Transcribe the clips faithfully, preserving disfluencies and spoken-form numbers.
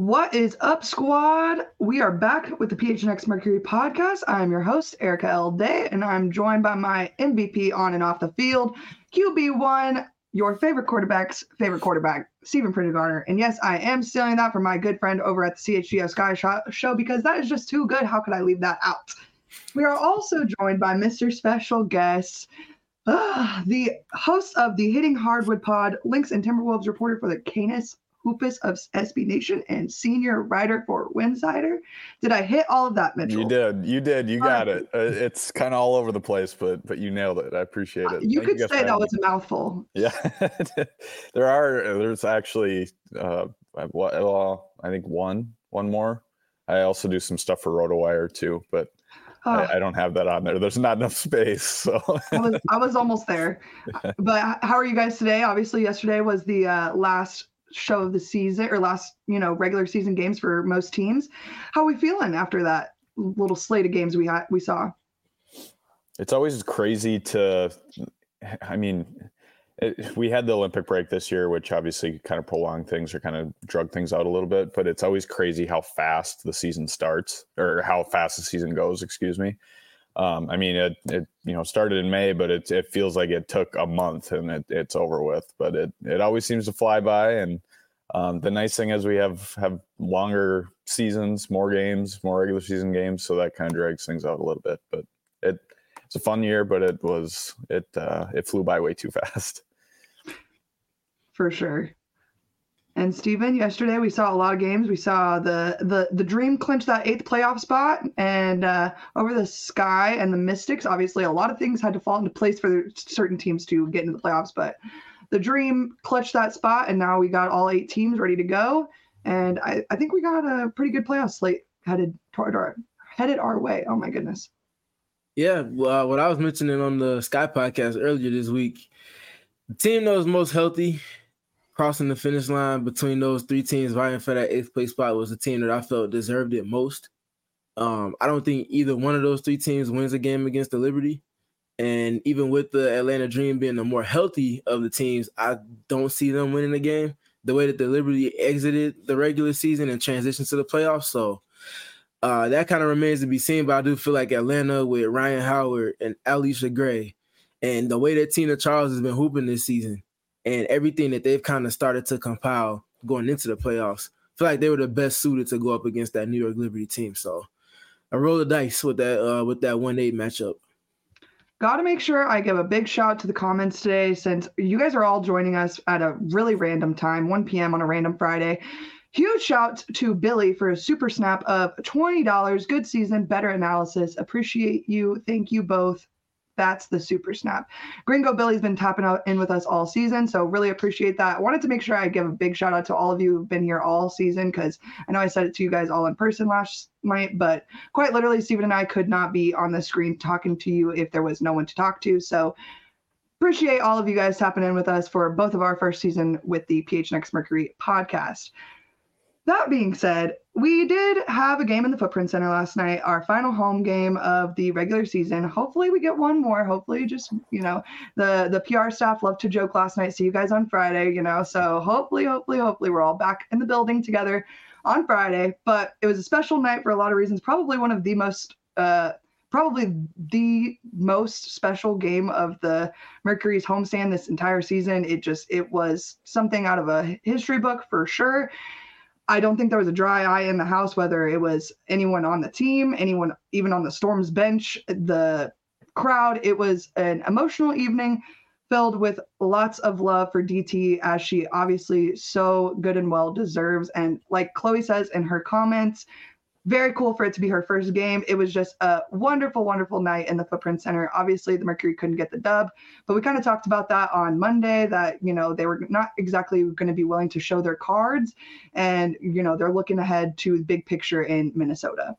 What is up, squad? We are back with the P H N X Mercury podcast. I am your host, Erica L. Day, and I'm joined by my M V P on and off the field, Q B one, your favorite quarterback's favorite quarterback, Stephen Prendergarner. And yes, I am stealing that from my good friend over at the C H G O Sky Show because that is just too good. How could I leave that out? We are also joined by Mister Special Guest, uh, the host of the Hitting Hardwood Pod, Lynx and Timberwolves reporter for the Canis Hoopus of S B Nation, and senior writer for Winsider. Did I hit all of that, Mitchell? You did. You did. You got uh, it. Uh, it's kind of all over the place, but but you nailed it. I appreciate it. Uh, you Thank could you say that was a mouthful. Yeah. there are. There's actually, uh, well, I think one, one more. I also do some stuff for RotoWire too, but oh. I, I don't have that on there. There's not enough space. So I, was, I was almost there. Yeah. But how are you guys today? Obviously, yesterday was the uh, last show of the season, or last, you know, regular season games for most teams. How are we feeling after that little slate of games we had, we saw? It's always crazy to, I mean, it, we had the Olympic break this year, which obviously kind of prolonged things or kind of drug things out a little bit, but it's always crazy how fast the season starts, or how fast the season goes, excuse me. Um, I mean, it, it, you know, started in May, but it, it feels like it took a month and it, it's over with, but it, it always seems to fly by. And um, the nice thing is we have, have longer seasons, more games, more regular season games. So that kind of drags things out a little bit, but it, it's a fun year, but it was, it, uh, it flew by way too fast. For sure. And Steven, yesterday we saw a lot of games. We saw the the the Dream clinch that eighth playoff spot, and uh, over the Sky and the Mystics. Obviously, a lot of things had to fall into place for certain teams to get into the playoffs, but the Dream clutched that spot, and now we got all eight teams ready to go. And I, I think we got a pretty good playoff slate headed toward our headed our way. Oh my goodness. Yeah, well, uh, what I was mentioning on the Sky podcast earlier this week, the team that was most healthy crossing the finish line between those three teams vying for that eighth place spot was the team that I felt deserved it most. Um, I don't think either one of those three teams wins a game against the Liberty. And even with the Atlanta Dream being the more healthy of the teams, I don't see them winning the game the way that the Liberty exited the regular season and transitioned to the playoffs. So uh, that kind of remains to be seen. But I do feel like Atlanta with Ryan Howard and Alicia Gray and the way that Tina Charles has been hooping this season, and everything that they've kind of started to compile going into the playoffs, I feel like they were the best suited to go up against that New York Liberty team. So I roll the dice with that uh, with that one eight matchup. Got to make sure I give a big shout out to the comments today, since you guys are all joining us at a really random time, one p.m. on a random Friday. Huge shout to Billy for a super snap of twenty dollars. Good season, better analysis. Appreciate you. Thank you both. That's the super snap. Gringo Billy's been tapping out in with us all season, so really appreciate that. I wanted to make sure I give a big shout out to all of you who've been here all season, because I know I said it to you guys all in person last night, but quite literally, Stephen and I could not be on the screen talking to you if there was no one to talk to. So appreciate all of you guys tapping in with us for both of our first season with the P H N X Mercury podcast. That being said, we did have a game in the Footprint Center last night, our final home game of the regular season. Hopefully we get one more. Hopefully just, you know, the, the P R staff loved to joke last night, see you guys on Friday, you know, so hopefully, hopefully, hopefully we're all back in the building together on Friday. But it was a special night for a lot of reasons, probably one of the most, uh, probably the most special game of the Mercury's homestand this entire season. It just, it was something out of a history book for sure. I don't think there was a dry eye in the house, whether it was anyone on the team, anyone even on the Storm's bench, the crowd. It was an emotional evening filled with lots of love for D T, as she obviously so good and well deserves. And like Chloe says in her comments, very cool for it to be her first game. It was just a wonderful, wonderful night in the Footprint Center. Obviously, the Mercury couldn't get the dub, but we kind of talked about that on Monday, that, you know, they were not exactly going to be willing to show their cards. And, you know, they're looking ahead to the big picture in Minnesota.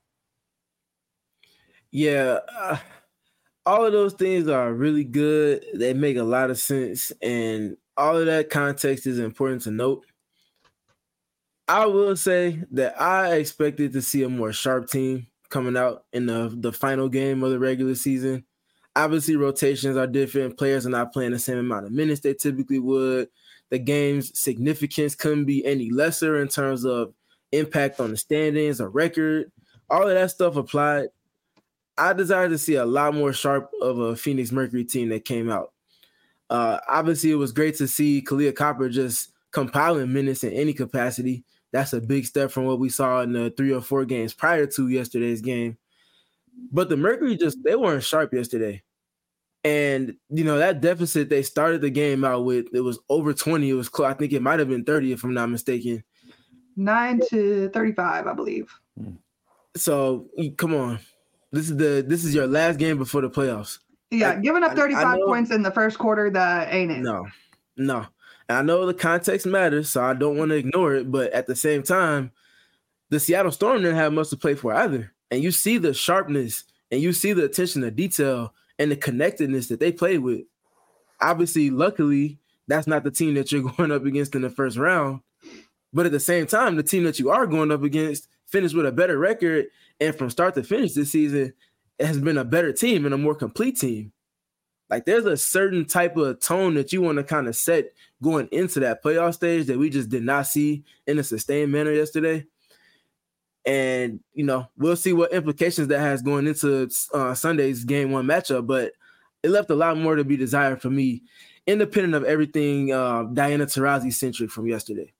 Yeah, uh, all of those things are really good. They make a lot of sense. And all of that context is important to note. I will say that I expected to see a more sharp team coming out in the, the final game of the regular season. Obviously, rotations are different. Players are not playing the same amount of minutes they typically would. The game's significance couldn't be any lesser in terms of impact on the standings, a record, all of that stuff applied. I desire to see a lot more sharp of a Phoenix Mercury team that came out. Uh, obviously, it was great to see Kahleah Copper just compiling minutes in any capacity. That's a big step from what we saw in the three or four games prior to yesterday's game. But the Mercury just, they weren't sharp yesterday. And, you know, that deficit they started the game out with, it was over twenty. It was close. I think it might have been thirty, if I'm not mistaken. nine to thirty-five, I believe. So, come on. This is the this is your last game before the playoffs. Yeah, Like, giving up thirty-five I know, points in the first quarter, that ain't it. No, no. And I know the context matters, so I don't want to ignore it. But at the same time, the Seattle Storm didn't have much to play for either. And you see the sharpness and you see the attention to detail and the connectedness that they play with. Obviously, luckily, that's not the team that you're going up against in the first round. But at the same time, the team that you are going up against finished with a better record. And from start to finish this season, it has been a better team and a more complete team. Like, there's a certain type of tone that you want to kind of set going into that playoff stage that we just did not see in a sustained manner yesterday. And, you know, we'll see what implications that has going into uh, Sunday's game one matchup. But it left a lot more to be desired for me, independent of everything uh, Diana Taurasi-centric from yesterday.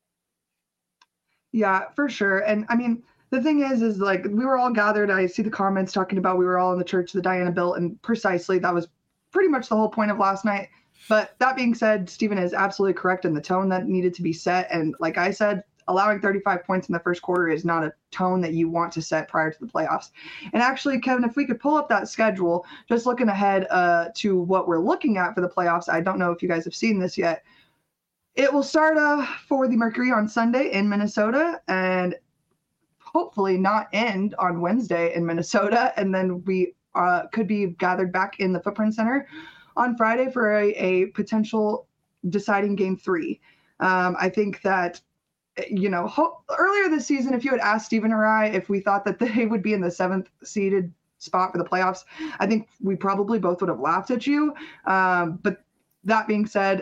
Yeah, for sure. And, I mean, the thing is, is like we were all gathered. I see the comments talking about we were all in the church that Diana built, and precisely that was pretty much the whole point of last night. But that being said, Stephen is absolutely correct in the tone that needed to be set. And like I said, allowing thirty-five points in the first quarter is not a tone that you want to set prior to the playoffs. And actually, Kevin, if we could pull up that schedule, just looking ahead uh, to what we're looking at for the playoffs, I don't know if you guys have seen this yet. It will start uh, for the Mercury on Sunday in Minnesota, and hopefully not end on Wednesday in Minnesota. And then we uh, could be gathered back in the Footprint Center on Friday for a, a potential deciding game three. Um, I think that, you know, ho- earlier this season, if you had asked Stephen or I if we thought that they would be in the seventh seeded spot for the playoffs, I think we probably both would have laughed at you. Um, but that being said,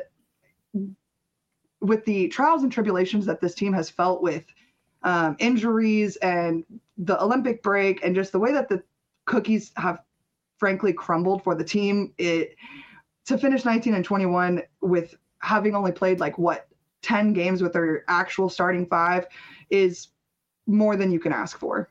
with the trials and tribulations that this team has felt with um, injuries and the Olympic break and just the way that the cookies have frankly crumbled for the team, it to finish nineteen and twenty-one with having only played like what ten games with their actual starting five is more than you can ask for.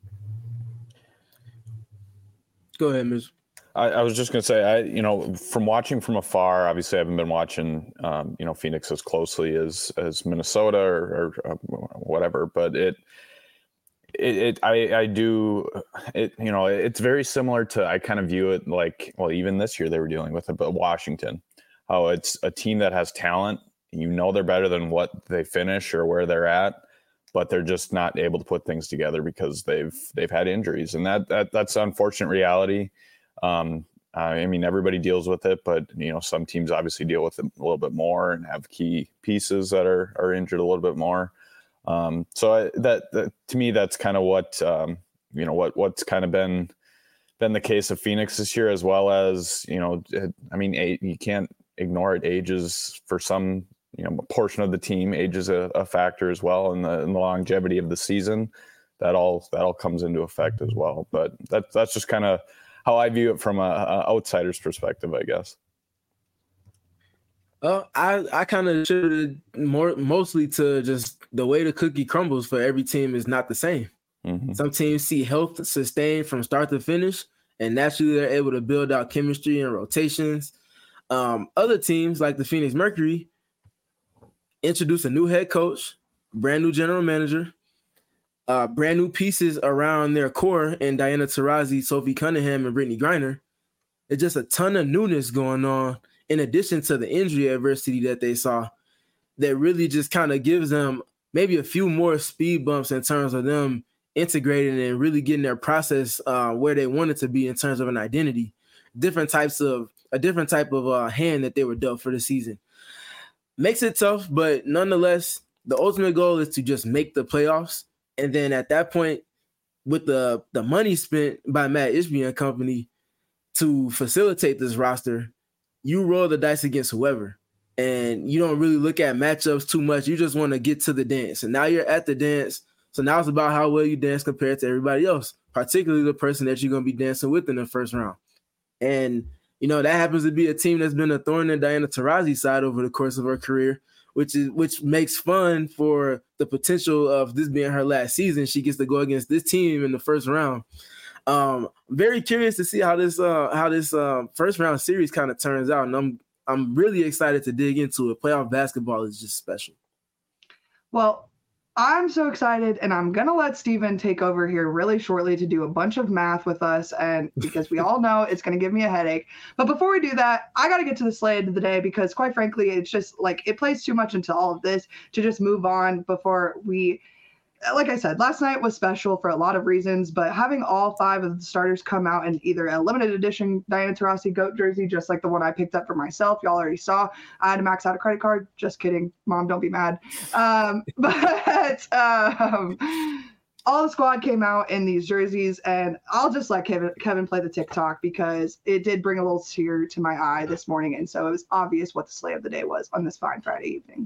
Go ahead, Miz I, I was just going to say, I, you know, from watching from afar, obviously I haven't been watching, um, you know, Phoenix as closely as, as Minnesota or, or uh, whatever, but it, it, it, I, I do it, you know, it's very similar to, I kind of view it like, well, even this year they were dealing with it, but Washington, how it's a team that has talent, you know, they're better than what they finish or where they're at, but they're just not able to put things together because they've, they've had injuries, and that, that that's an unfortunate reality. Um, I mean, everybody deals with it, but you know, some teams obviously deal with it a little bit more and have key pieces that are, are injured a little bit more. Um, so I, that, that to me, that's kind of what, um, you know, what, what's kind of been, been the case of Phoenix this year, as well as, you know, I mean, eight, you can't ignore it. Ages for some, you know, portion of the team, age is a, a factor as well. In the, in the longevity of the season, that all, that all comes into effect as well. But that, that's just kind of how I view it from a, a outsider's perspective, I guess. Uh, I, I kind of attributed more mostly to just the way the cookie crumbles for every team is not the same. Mm-hmm. Some teams see health sustained from start to finish, and naturally they're able to build out chemistry and rotations. Um, other teams like the Phoenix Mercury introduce a new head coach, brand new general manager, uh, brand new pieces around their core in Diana Taurasi, Sophie Cunningham, and Brittany Griner. It's just a ton of newness going on, in addition to the injury adversity that they saw, that really just kind of gives them maybe a few more speed bumps in terms of them integrating and really getting their process uh, where they want it to be in terms of an identity. Different types of a different type of uh, hand that they were dealt for the season. Makes it tough, but nonetheless, the ultimate goal is to just make the playoffs. And then at that point, with the, the money spent by Matt Ishbia and company to facilitate this roster, you roll the dice against whoever. And you don't really look at matchups too much. You just want to get to the dance. And now you're at the dance So now it's about how well you dance compared to everybody else, particularly the person that you're going to be dancing with in the first round. And, you know, that happens to be a team that's been a thorn in Diana Taurasi's side over the course of her career, which is which makes fun for the potential of this being her last season. She gets to go against this team in the first round. Um, very curious to see how this uh, how this uh, first round series kind of turns out, and I'm I'm really excited to dig into it. Playoff basketball is just special. Well, I'm so excited, and I'm going to let Steven take over here really shortly to do a bunch of math with us, and because we all know it's going to give me a headache. But before we do that, I got to get to the slate of the day because, quite frankly, it's just like it plays too much into all of this to just move on before we – like I said, last night was special for a lot of reasons, but having all five of the starters come out in either a limited edition Diana Taurasi GOAT jersey, just like the one I picked up for myself, y'all already saw. I had to max out a credit card. Just kidding. Mom, don't be mad. Um, but um, all the squad came out in these jerseys, and I'll just let Kevin, Kevin play the TikTok because it did bring a little tear to my eye this morning, and so it was obvious what the slate of the day was on this fine Friday evening.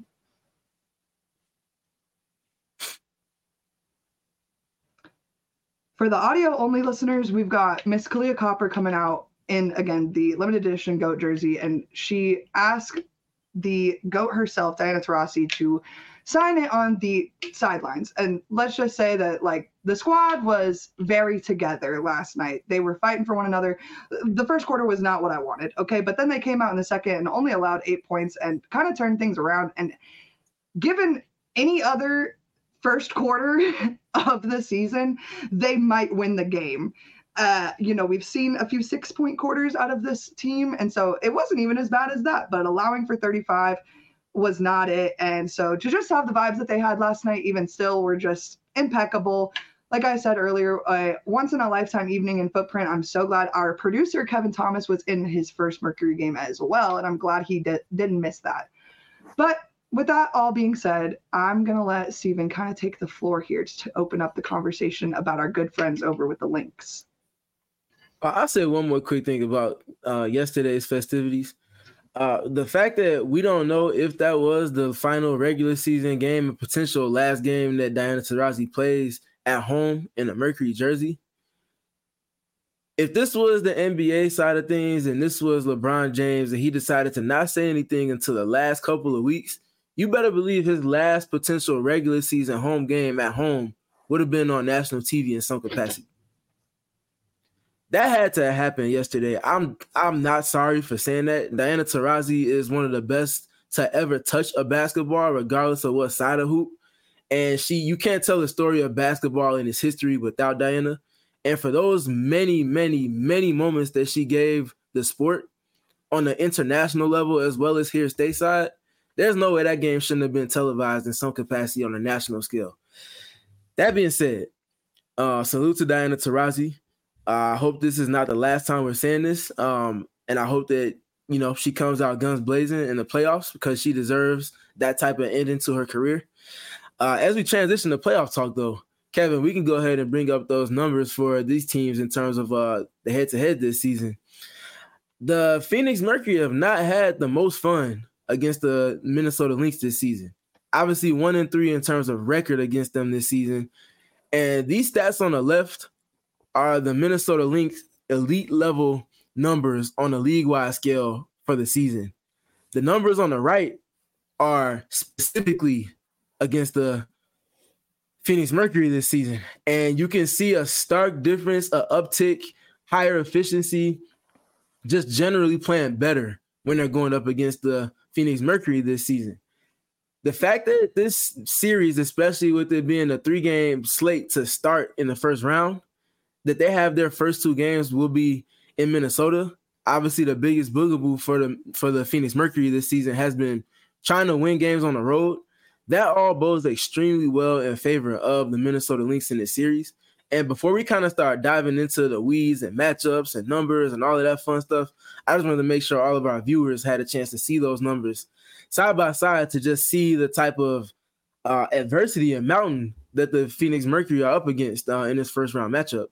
For the audio-only listeners, we've got Miss Kahleah Copper coming out in, again, the limited edition GOAT jersey, and she asked the GOAT herself, Diana Taurasi, to sign it on the sidelines. And let's just say that, like, the squad was very together last night. They were fighting for one another. The first quarter was not what I wanted, okay? But then they came out in the second and only allowed eight points and kind of turned things around. And given any other first quarter of the season, they might win the game. Uh, you know, we've seen a few six-point quarters out of this team, and so it wasn't even as bad as that, but allowing for thirty-five was not it. And so to just have the vibes that they had last night, even still, were just impeccable. Like I said earlier, a once-in-a-lifetime evening in Footprint. I'm so glad our producer, Kevin Thomas, was in his first Mercury game as well, and I'm glad he did, didn't miss that. But with that all being said, I'm going to let Steven kind of take the floor here to open up the conversation about our good friends over with the Lynx. I'll say one more quick thing about uh, yesterday's festivities. Uh, the fact that we don't know if that was the final regular season game, a potential last game that Diana Taurasi plays at home in a Mercury jersey. If this was the N B A side of things and this was LeBron James and he decided to not say anything until the last couple of weeks, you better believe his last potential regular season home game at home would have been on national T V in some capacity. That had to happen yesterday. I'm I'm not sorry for saying that. Diana Taurasi is one of the best to ever touch a basketball, regardless of what side of hoop. And she, you can't tell the story of basketball in its history without Diana. And for those many, many, many moments that she gave the sport on the international level as well as here stateside, there's no way that game shouldn't have been televised in some capacity on a national scale. That being said, uh, salute to Diana Taurasi. Uh, I hope this is not the last time we're saying this. Um, and I hope that, you know, she comes out guns blazing in the playoffs because she deserves that type of ending to her career. Uh, as we transition to playoff talk, though, Kevin, we can go ahead and bring up those numbers for these teams in terms of uh, the head-to-head this season. The Phoenix Mercury have not had the most fun against the Minnesota Lynx this season. Obviously, one and three in terms of record against them this season. And these stats on the left are the Minnesota Lynx elite level numbers on a league-wide scale for the season. The numbers on the right are specifically against the Phoenix Mercury this season. And you can see a stark difference, a uptick, higher efficiency, just generally playing better when they're going up against the Phoenix Mercury this season. The fact that this series, especially with it being a three-game slate to start in the first round, that they have their first two games will be in Minnesota. Obviously, the biggest boogaboo for the for the Phoenix Mercury this season has been trying to win games on the road. That all bodes extremely well in favor of the Minnesota Lynx in this series. And before we kind of start diving into the weeds and matchups and numbers and all of that fun stuff, I just wanted to make sure all of our viewers had a chance to see those numbers side by side to just see the type of uh, adversity and mountain that the Phoenix Mercury are up against uh, in this first round matchup.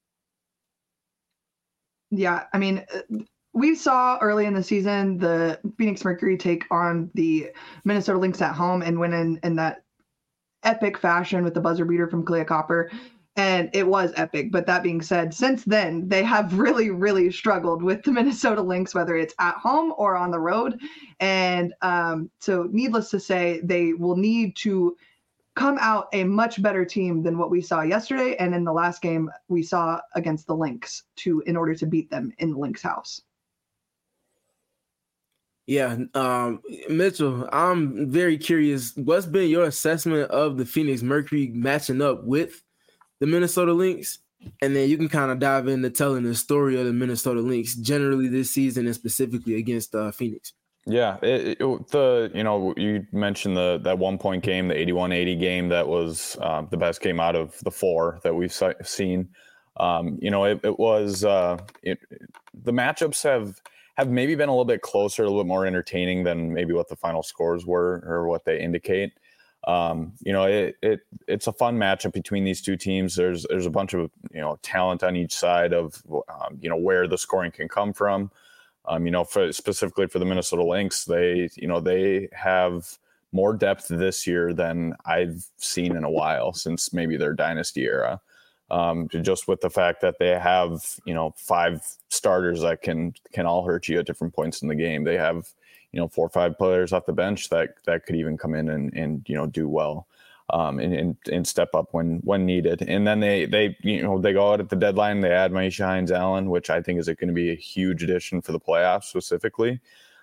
Yeah, I mean, we saw early in the season the Phoenix Mercury take on the Minnesota Lynx at home and win in, in that epic fashion with the buzzer beater from Clea Copper. And it was epic. But that being said, since then, they have really, really struggled with the Minnesota Lynx, whether it's at home or on the road. And um, so needless to say, they will need to come out a much better team than what we saw yesterday. And in the last game we saw against the Lynx to in order to beat them in the Lynx house. Yeah, um, Mitchell, I'm very curious. What's been your assessment of the Phoenix Mercury matching up with the Minnesota Lynx? And then you can kind of dive into telling the story of the Minnesota Lynx generally this season and specifically against uh, Phoenix. Yeah, it, it, the you know you mentioned the that one point game, the eighty-one eighty game that was uh, the best game out of the four that we've seen. Um, you know, it, it was uh, it, the matchups have have maybe been a little bit closer, a little bit more entertaining than maybe what the final scores were or what they indicate. Um, you know, it, it it's a fun matchup between these two teams. There's there's a bunch of you know talent on each side of um, you know where the scoring can come from. Um, you know, for specifically for the Minnesota Lynx, they you know they have more depth this year than I've seen in a while since maybe their dynasty era. Um, just with the fact that they have you know five starters that can can all hurt you at different points in the game. They have you know, four or five players off the bench that that could even come in and, and you know, do well um, and, and and step up when when needed. And then they, they you know, they go out at the deadline, they add Myisha Hines-Allen, which I think is going to be a huge addition for the playoffs specifically.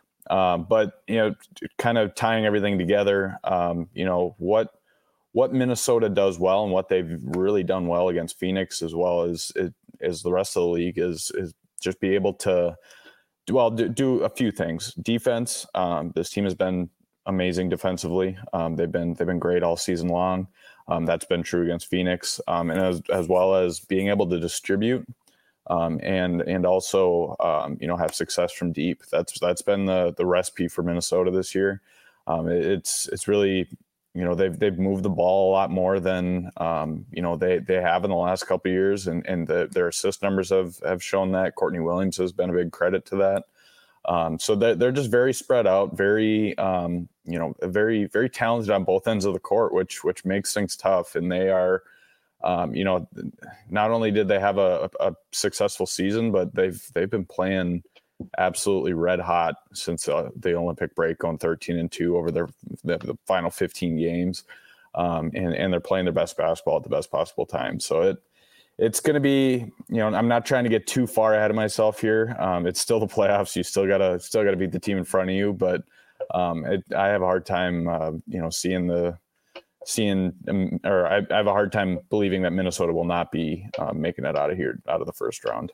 Um, but, you know, kind of tying everything together, um, you know, what what Minnesota does well and what they've really done well against Phoenix as well as, as the rest of the league is is just be able to Well, do, do a few things. Defense. Um, this team has been amazing defensively. Um, they've been they've been great all season long. Um, that's been true against Phoenix, um, and as as well as being able to distribute um, and and also um, you know have success from deep. That's that's been the the recipe for Minnesota this year. Um, it, it's it's really you know they've they've moved the ball a lot more than um, you know they they have in the last couple of years, and and the, their assist numbers have have shown that. Courtney Williams has been a big credit to that. Um, so they're, they're just very spread out, very um, you know very very talented on both ends of the court, which which makes things tough. And they are um, you know not only did they have a, a successful season, but they've they've been playing absolutely red hot since uh, the Olympic break, going thirteen and two over their the, the final fifteen games, um, and and they're playing their best basketball at the best possible time. So it it's going to be you know I'm not trying to get too far ahead of myself here. Um, it's still the playoffs. You still gotta still gotta beat the team in front of you, but um, it, I have a hard time uh, you know seeing the seeing um, or I, I have a hard time believing that Minnesota will not be um, making it out of here out of the first round.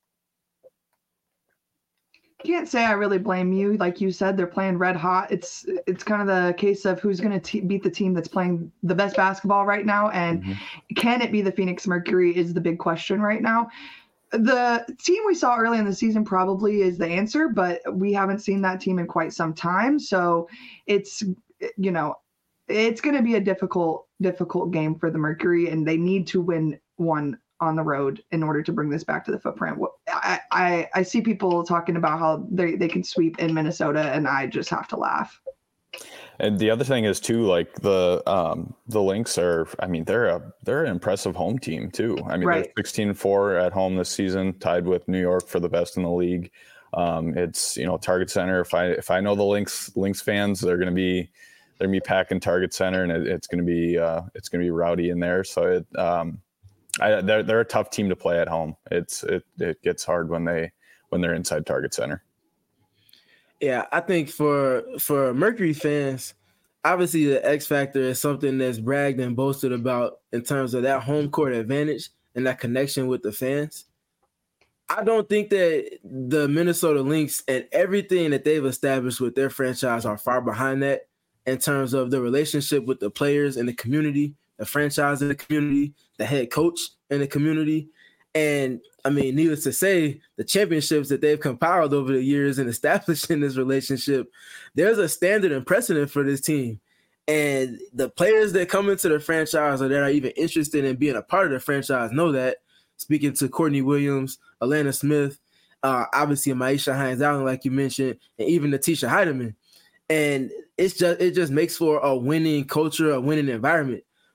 Can't say I really blame you. Like you said, they're playing red hot. It's it's kind of the case of who's going to beat the team that's playing the best basketball right now. And mm-hmm. Can it be the Phoenix Mercury is the big question right now. The team we saw early in the season probably is the answer, but we haven't seen that team in quite some time. So it's, you know, it's going to be a difficult, difficult game for the Mercury, and they need to win one on the road in order to bring this back to the footprint. I, I, I see people talking about how they, they can sweep in Minnesota, and I just have to laugh. And the other thing is too, like the um, the Lynx are, I mean, they're a they're an impressive home team too. I mean, right. They're sixteen and four at home this season, tied with New York for the best in the league. Um, it's you know Target Center. If I if I know the Lynx Lynx fans, they're going to be they're going to be packing Target Center, and it, it's going to be uh, it's going to be rowdy in there. So it. Um, I, they're they're a tough team to play at home. It's it it gets hard when they when they're inside Target Center. Yeah, I think for for Mercury fans, obviously the X factor is something that's bragged and boasted about in terms of that home court advantage and that connection with the fans. I don't think that the Minnesota Lynx and everything that they've established with their franchise are far behind that in terms of the relationship with the players and the community, the franchise in the community, the head coach in the community. And I mean, needless to say, the championships that they've compiled over the years and established in this relationship, there's a standard and precedent for this team. And the players that come into the franchise or that are even interested in being a part of the franchise know that. Speaking to Courtney Williams, Alana Smith, uh, obviously Myisha Hines-Allen, like you mentioned, and even Natisha Heidemann. And it's just it just makes for a winning culture, a winning environment.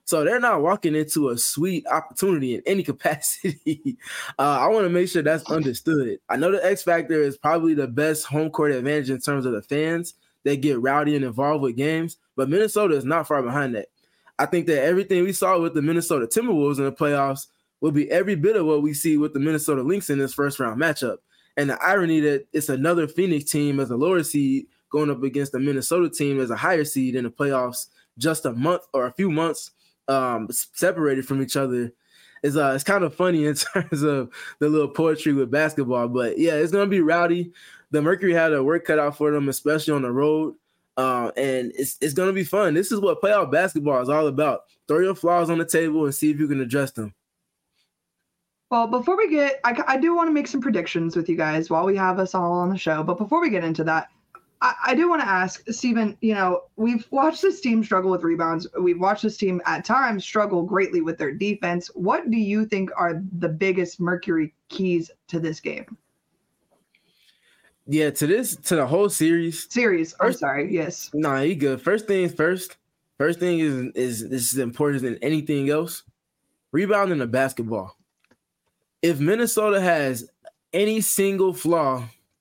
So they're not walking into a sweet opportunity in any capacity. uh, I want to make sure that's understood. I know the X Factor is probably the best home court advantage in terms of the fans that get rowdy and involved with games, but Minnesota is not far behind that. I think that everything we saw with the Minnesota Timberwolves in the playoffs will be every bit of what we see with the Minnesota Lynx in this first round matchup. And the irony that it's another Phoenix team as a lower seed going up against the Minnesota team as a higher seed in the playoffs just a month or a few months um, separated from each other is uh, it's kind of funny in terms of the little poetry with basketball. But yeah, it's going to be rowdy. The Mercury had a work cut out for them, especially on the road. Uh, and it's it's going to be fun. This is what playoff basketball is all about. Throw your flaws on the table and see if you can address them. Well, before we get, I, I do want to make some predictions with you guys while we have us all on the show. But before we get into that, I, I do want to ask, Steven, you know, we've watched this team struggle with rebounds. We've watched this team at times struggle greatly with their defense. What do you think are the biggest Mercury keys to this game? Yeah, to this, to the whole series. Series, I'm first, sorry, yes. No, nah, you good. First things first. First thing is, is this is important than anything else. Rebounding the basketball. If Minnesota has any single flaw,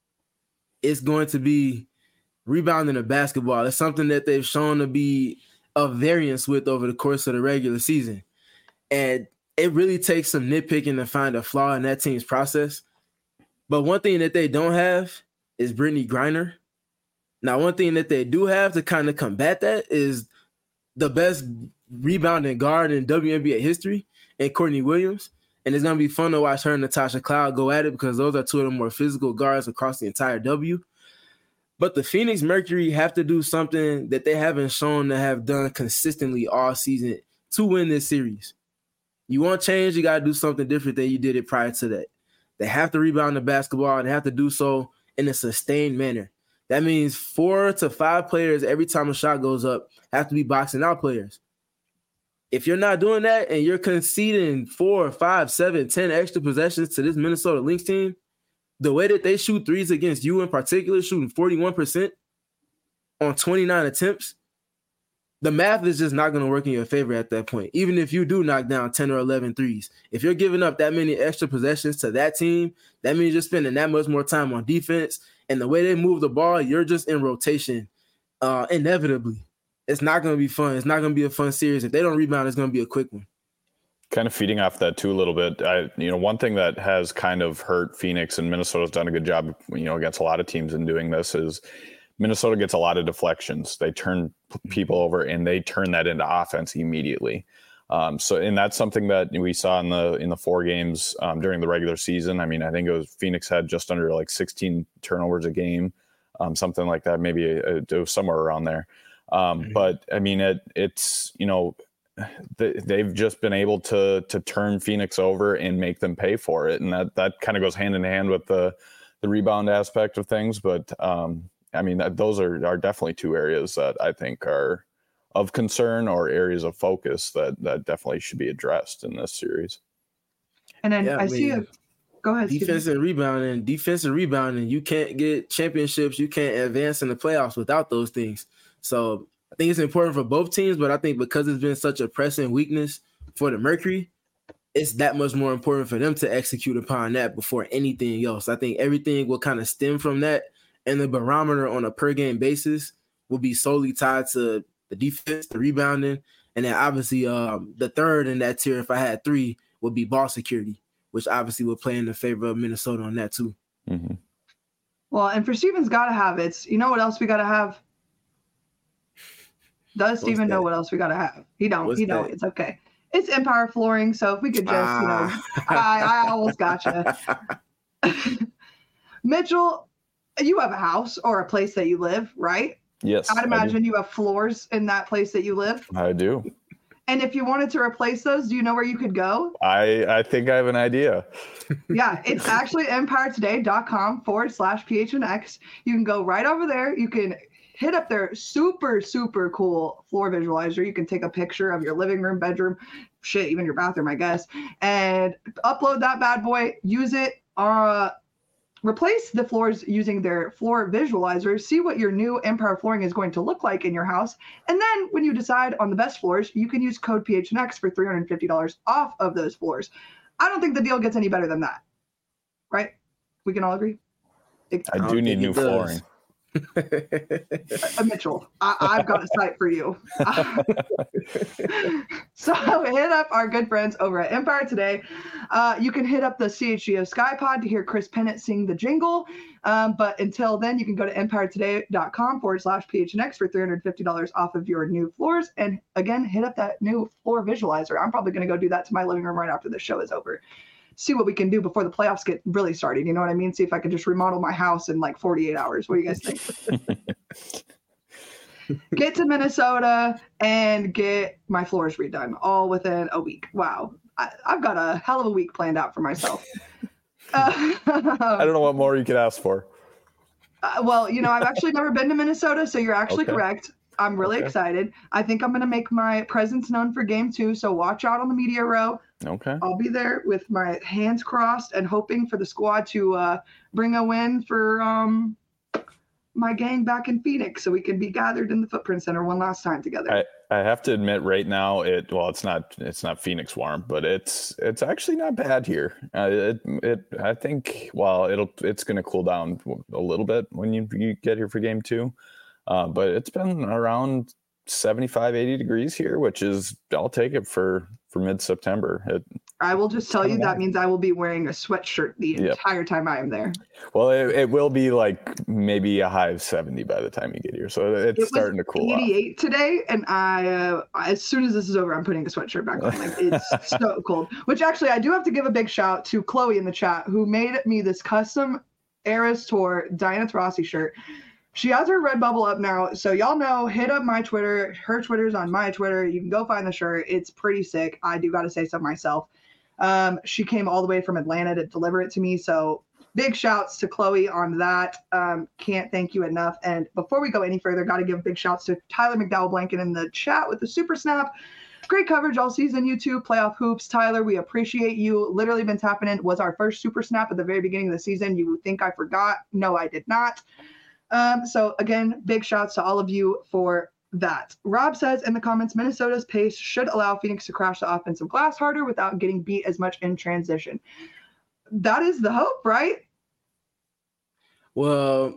it's going to be rebounding the basketball. It's something that they've shown to be a variance with over the course of the regular season. And it really takes some nitpicking to find a flaw in that team's process. But one thing that they don't have is Brittany Griner. Now, one thing that they do have to kind of combat that is the best rebounding guard in W N B A history, and Courtney Williams. And it's going to be fun to watch her and Natasha Cloud go at it because those are two of the more physical guards across the entire W. But the Phoenix Mercury have to do something that they haven't shown to have done consistently all season to win this series. You want change, you got to do something different than you did it prior to that. They have to rebound the basketball and they have to do so in a sustained manner. That means four to five players every time a shot goes up have to be boxing out players. If you're not doing that and you're conceding four, five, seven, ten extra possessions to this Minnesota Lynx team, the way that they shoot threes against you in particular, shooting forty-one percent on twenty-nine attempts, the math is just not going to work in your favor at that point, even if you do knock down ten or eleven threes. If you're giving up that many extra possessions to that team, that means you're spending that much more time on defense. And the way they move the ball, you're just in rotation uh, inevitably. It's not going to be fun. It's not going to be a fun series. If they don't rebound, it's going to be a quick one. Kind of feeding off that too a little bit. I, you know, one thing that has kind of hurt Phoenix, and Minnesota's done a good job, you know, against a lot of teams in doing this, is Minnesota gets a lot of deflections. They turn people over and they turn that into offense immediately. Um, so, and that's something that we saw in the in the four games um, during the regular season. I mean, I think it was Phoenix had just under like sixteen turnovers a game, um, something like that. Maybe a, a, it was somewhere around there. Um, mm-hmm. But I mean, it it's you know. They've just been able to to turn Phoenix over and make them pay for it, and that that kind of goes hand in hand with the the rebound aspect of things. But um, I mean, that, those are are definitely two areas that I think are of concern or areas of focus that that definitely should be addressed in this series. And then yeah, I, I mean, see a go ahead. Defense Steven. and rebounding, defense and rebounding. You can't get championships. You can't advance in the playoffs without those things. So I think it's important for both teams, but I think because it's been such a pressing weakness for the Mercury, it's that much more important for them to execute upon that before anything else. I think everything will kind of stem from that, and the barometer on a per-game basis will be solely tied to the defense, the rebounding, and then obviously um, the third in that tier, if I had three, would be ball security, which obviously would play in the favor of Minnesota on that too. Mm-hmm. Well, and for Steven's got to have it. You know what else we got to have? Does Steven know what else we got to have? He don't. What's he don't. That? It's okay. It's Empire Flooring. So if we could just, ah. you know, I, I almost gotcha. Mitchell, you have a house or a place that you live, right? Yes. I'd imagine you have floors in that place that you live. I do. And if you wanted to replace those, do you know where you could go? I, I think I have an idea. Yeah, it's actually empiretoday.com forward slash PHNX. You can go right over there. You can hit up their super, super cool floor visualizer. You can take a picture of your living room, bedroom, shit, even your bathroom, I guess, and upload that bad boy, use it uh, replace the floors using their floor visualizer, see what your new Empire flooring is going to look like in your house. And then when you decide on the best floors, you can use code P H N X for three hundred fifty dollars off of those floors. I don't think the deal gets any better than that. Right? We can all agree? It, I do need new flooring. uh, Mitchell, I, I've got a site for you. So hit up our good friends over at Empire Today. Uh, you can hit up the C H G O SkyPod to hear Chris Pennant sing the jingle. Um, but until then, you can go to empiretoday.com forward slash PHNX for three hundred fifty dollars off of your new floors. And again, hit up that new floor visualizer. I'm probably going to go do that to my living room right after the show is over. See what we can do before the playoffs get really started. You know what I mean? See if I can just remodel my house in like forty-eight hours. What do you guys think? Get to Minnesota and get my floors redone all within a week. Wow. I, I've got a hell of a week planned out for myself. Uh, I don't know what more you could ask for. Uh, well, you know, I've actually never been to Minnesota, so you're actually Okay. correct. I'm really Okay. excited. I think I'm going to make my presence known for game two, so watch out on the media row. Okay. I'll be there with my hands crossed and hoping for the squad to uh, bring a win for um, my gang back in Phoenix so we can be gathered in the Footprint Center one last time together. I, I have to admit right now it well it's not it's not Phoenix warm, but it's it's actually not bad here. Uh, it it I think well it'll it's going to cool down a little bit when you, you get here for game two. Uh, but it's been around seventy-five, eighty degrees here, which is I'll take it for for mid-September. It, I will just tell you kinda that warm. means I will be wearing a sweatshirt the Yep. entire time I am there. well, it, it will be like maybe a high of seventy by the time you get here, so it's It was starting to cool off. eighty-eight today, and I, uh, as soon as this is over, I'm putting a sweatshirt back on. Like it's so cold. Which actually, I do have to give a big shout to Chloe in the chat who made me this custom Eras Tour Diana Taurasi shirt. She has her Redbubble up now, so y'all know. Hit up my Twitter. Her Twitter's on my Twitter. You can go find the shirt. It's pretty sick. I do got to say so myself. Um, she came all the way from Atlanta to deliver it to me, so big shouts to Chloe on that. Um, can't thank you enough. And before we go any further, got to give big shouts to Tyler McDowell Blanket in the chat with the super snap. Great coverage all season, you two. Playoff hoops. Tyler, we appreciate you. Literally been tapping in. Was our first super snap at the very beginning of the season. You think I forgot? No, I did not. Um, so again, big shouts to all of you for that. Rob says in the comments, Minnesota's pace should allow Phoenix to crash the offensive glass harder without getting beat as much in transition. That is the hope, right? Well,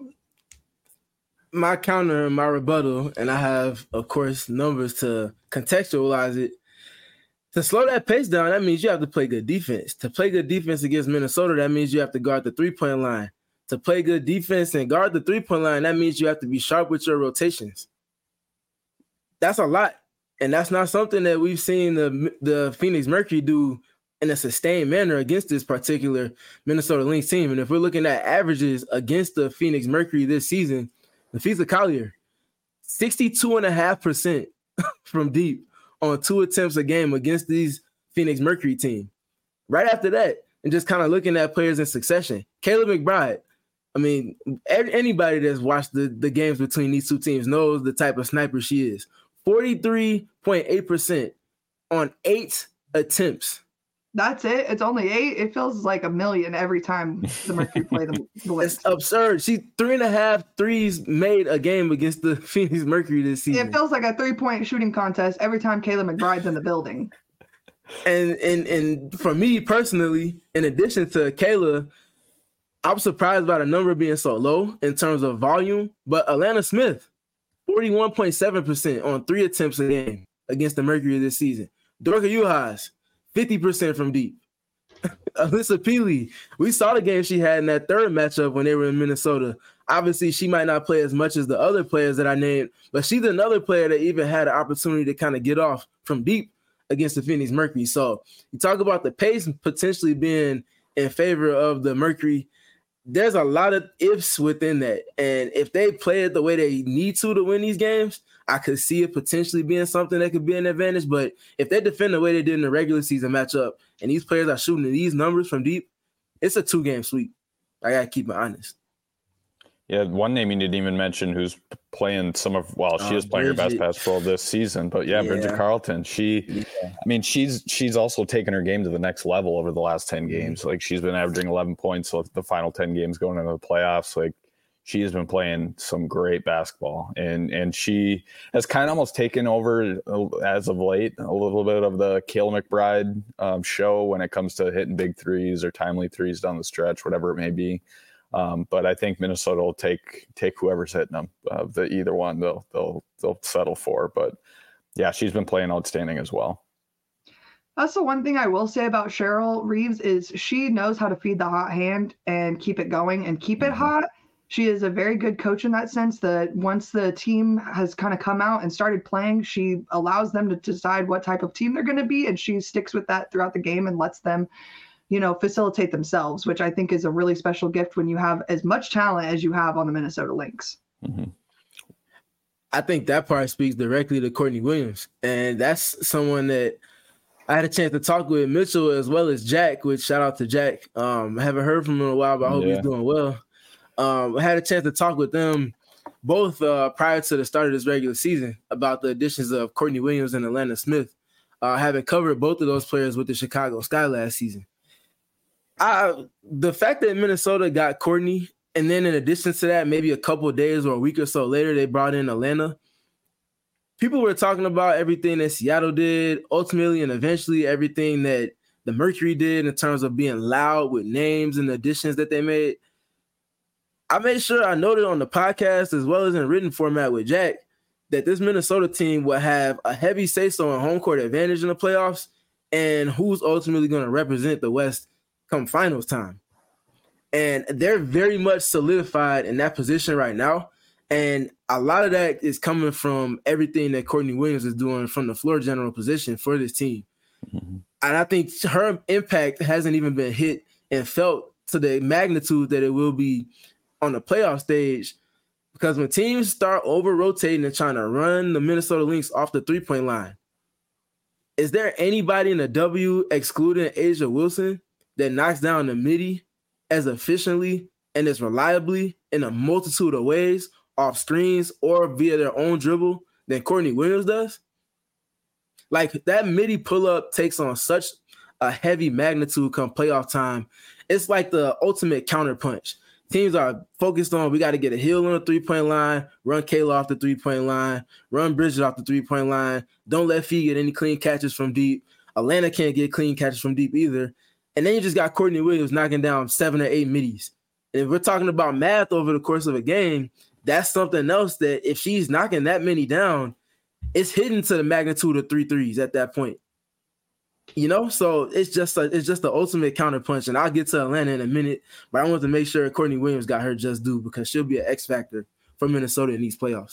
my counter and my rebuttal, and I have, of course, numbers to contextualize it. To slow that pace down, that means you have to play good defense. To play good defense against Minnesota, that means you have to guard the three-point line. To play good defense and guard the three-point line, that means you have to be sharp with your rotations. That's a lot. And that's not something that we've seen the, the Phoenix Mercury do in a sustained manner against this particular Minnesota Lynx team. And if we're looking at averages against the Phoenix Mercury this season, Nafisa Collier, sixty-two point five percent from deep on two attempts a game against these Phoenix Mercury team. Right after that, and just kind of looking at players in succession, Kayla McBride. I mean, anybody that's watched the, the games between these two teams knows the type of sniper she is. forty-three point eight percent on eight attempts. That's it. It's only eight. It feels like a million every time the Mercury play the, the Lynx. It's absurd. She three and a half threes made a game against the Phoenix Mercury this season. It feels like a three-point shooting contest every time Kayla McBride's in the building. And and and for me personally, in addition to Kayla, I'm surprised by the number being so low in terms of volume. But Alana Smith, forty-one point seven percent on three attempts a game against the Mercury this season. Dorka Juhas, fifty percent from deep. Alyssa Peely, we saw the game she had in that third matchup when they were in Minnesota. Obviously, she might not play as much as the other players that I named, but she's another player that even had an opportunity to kind of get off from deep against the Phoenix Mercury. So you talk about the pace potentially being in favor of the Mercury. There's a lot of ifs within that. And if they play it the way they need to to win these games, I could see it potentially being something that could be an advantage. But if they defend the way they did in the regular season matchup and these players are shooting these numbers from deep, it's a two-game sweep. I got to keep it honest. Yeah, one name you didn't even mention who's playing some of, well, she Uh, is playing her best Bridget. basketball this season, but yeah, Bridget Yeah. Carlton, she, Yeah. I mean, she's she's also taken her game to the next level over the last ten Mhm. games. Like she's been averaging eleven points so the final ten games going into the playoffs. Like she has been playing some great basketball, and and she has kind of almost taken over as of late a little bit of the Kayla McBride um, show when it comes to hitting big threes or timely threes down the stretch, whatever it may be. Um, but I think Minnesota will take take whoever's hitting them. Uh, the either one they'll they'll they'll settle for. But yeah, she's been playing outstanding as well. That's the one thing I will say about Cheryl Reeves is she knows how to feed the hot hand and keep it going and keep it Mhm. hot. She is a very good coach in that sense that once the team has kind of come out and started playing, she allows them to decide what type of team they're going to be, and she sticks with that throughout the game and lets them, you know, facilitate themselves, which I think is a really special gift when you have as much talent as you have on the Minnesota Lynx. Mm-hmm. I think that part speaks directly to Courtney Williams. And that's someone that I had a chance to talk with Mitchell as well as Jack, which shout out to Jack. Um, I haven't heard from him in a while, but I hope Yeah. he's doing well. Um, I had a chance to talk with them both uh, prior to the start of this regular season about the additions of Courtney Williams and Atlanta Smith, uh, having covered both of those players with the Chicago Sky last season. I, the fact that Minnesota got Courtney, and then in addition to that, maybe a couple of days or a week or so later, they brought in Atlanta. People were talking about everything that Seattle did, ultimately and eventually everything that the Mercury did in terms of being loud with names and additions that they made. I made sure I noted on the podcast as well as in written format with Jack that this Minnesota team will have a heavy say-so on home court advantage in the playoffs and who's ultimately going to represent the West come finals time. And they're very much solidified in that position right now. And a lot of that is coming from everything that Courtney Williams is doing from the floor general position for this team. Mm-hmm. And I think her impact hasn't even been hit and felt to the magnitude that it will be on the playoff stage, because when teams start over-rotating and trying to run the Minnesota Lynx off the three-point line, is there anybody in the W, excluding Asia Wilson, that knocks down the midi as efficiently and as reliably in a multitude of ways off screens or via their own dribble than Courtney Williams does? Like, that midi pull-up takes on such a heavy magnitude come playoff time. It's like the ultimate counterpunch. Teams are focused on, we got to get a heel on the three-point line, run Kayla off the three-point line, run Bridget off the three-point line. Don't let Fee get any clean catches from deep. Atlanta can't get clean catches from deep either. And then you just got Courtney Williams knocking down seven or eight middies. And if we're talking about math over the course of a game, that's something else that if she's knocking that many down, it's hidden to the magnitude of three threes at that point. You know, so it's just a, it's just the ultimate counterpunch. And I'll get to Atlanta in a minute, but I want to make sure Courtney Williams got her just due because she'll be an X factor for Minnesota in these playoffs.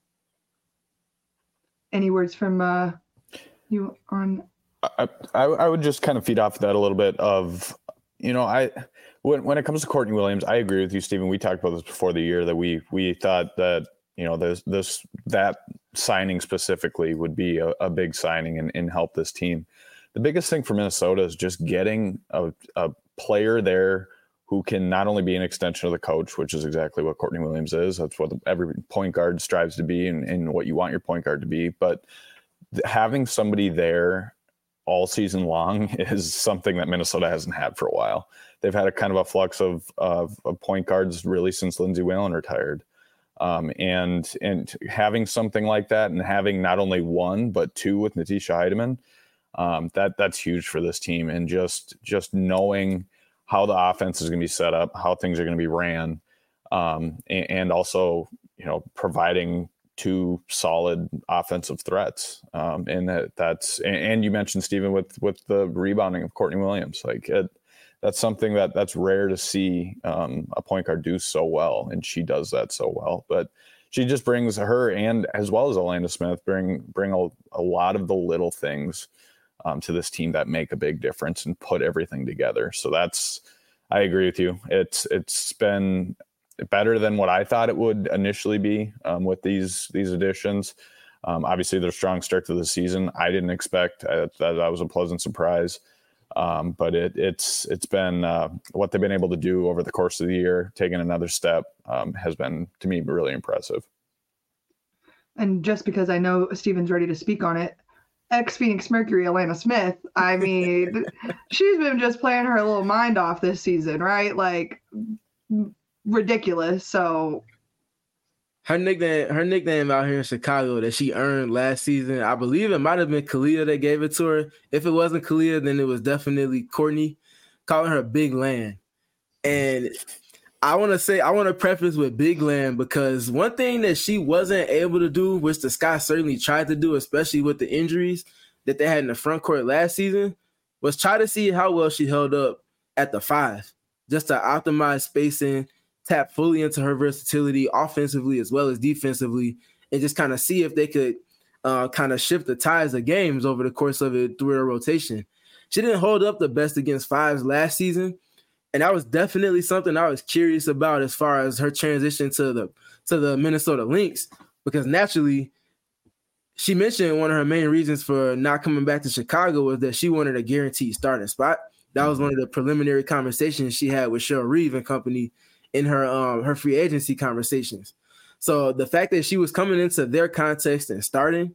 Any words from uh, you on? I, I I would just kind of feed off that a little bit of, you know, I when when it comes to Courtney Williams, I agree with you, Stephen. We talked about this before the year that we we thought that, you know, this this that signing specifically would be a, a big signing and, and help this team. The biggest thing for Minnesota is just getting a, a player there who can not only be an extension of the coach, which is exactly what Courtney Williams is. That's what every point guard strives to be and, and what you want your point guard to be. But having somebody there all season long is something that Minnesota hasn't had for a while. They've had a kind of a flux of, of, of point guards really since Lindsey Whalen retired. Um, and and having something like that and having not only one, but two with Natisha Heidemann, Um, that that's huge for this team, and just just knowing how the offense is going to be set up, how things are going to be ran, um, and, and also, you know, providing two solid offensive threats. Um, and that that's and, and you mentioned, Stephen, with with the rebounding of Courtney Williams, like it, that's something that that's rare to see um, a point guard do so well, and she does that so well. But she just brings her, and as well as Atlanta Smith, bring bring a, a lot of the little things Um, to this team that make a big difference and put everything together. So that's, I agree with you. It's it's been better than what I thought it would initially be um, with these these additions. Um, obviously, their strong start to the season, I didn't expect. I, that, that was a pleasant surprise. Um, but it, it's it's been uh, what they've been able to do over the course of the year, taking another step, um, has been, to me, really impressive. And just because I know Steven's ready to speak on it, ex-Phoenix Mercury, Alana Smith, I mean, she's been just playing her little mind off this season, right? Like, ridiculous. So her nickname, her nickname out here in Chicago that she earned last season, I believe it might have been Kalia that gave it to her. If it wasn't Kalia, then it was definitely Courtney, calling her Big Land. And I want to say, I want to preface with Big Land because one thing that she wasn't able to do, which the Sky certainly tried to do, especially with the injuries that they had in the front court last season, was try to see how well she held up at the five, just to optimize spacing, tap fully into her versatility offensively as well as defensively, and just kind of see if they could uh, kind of shift the tides of games over the course of it through her rotation. She didn't hold up the best against fives last season, and that was definitely something I was curious about as far as her transition to the to the Minnesota Lynx, because naturally, she mentioned one of her main reasons for not coming back to Chicago was that she wanted a guaranteed starting spot. That was one of the preliminary conversations she had with Cheryl Reeve and company in her um, her free agency conversations. So the fact that she was coming into their context and starting,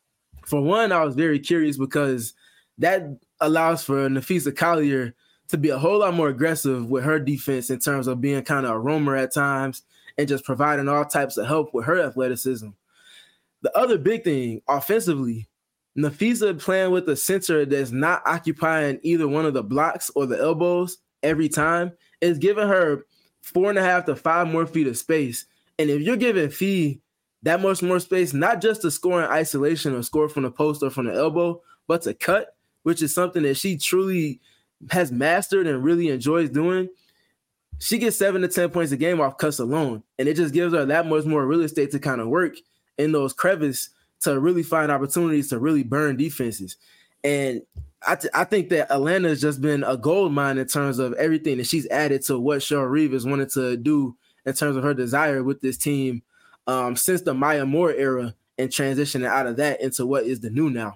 for one, I was very curious because that allows for Napheesa Collier to be a whole lot more aggressive with her defense in terms of being kind of a roamer at times and just providing all types of help with her athleticism. The other big thing, offensively, Napheesa playing with a center that's not occupying either one of the blocks or the elbows every time is giving her four and a half to five more feet of space. And if you're giving Fee that much more space, not just to score in isolation or score from the post or from the elbow, but to cut, which is something that she truly has mastered and really enjoys doing, she gets seven to ten points a game off cuts alone. And it just gives her that much more real estate to kind of work in those crevices to really find opportunities to really burn defenses. And I, th- I think that Atlanta has just been a gold mine in terms of everything that she's added to what Cheryl Reeve has wanted to do in terms of her desire with this team um, since the Maya Moore era and transitioning out of that into what is the new now.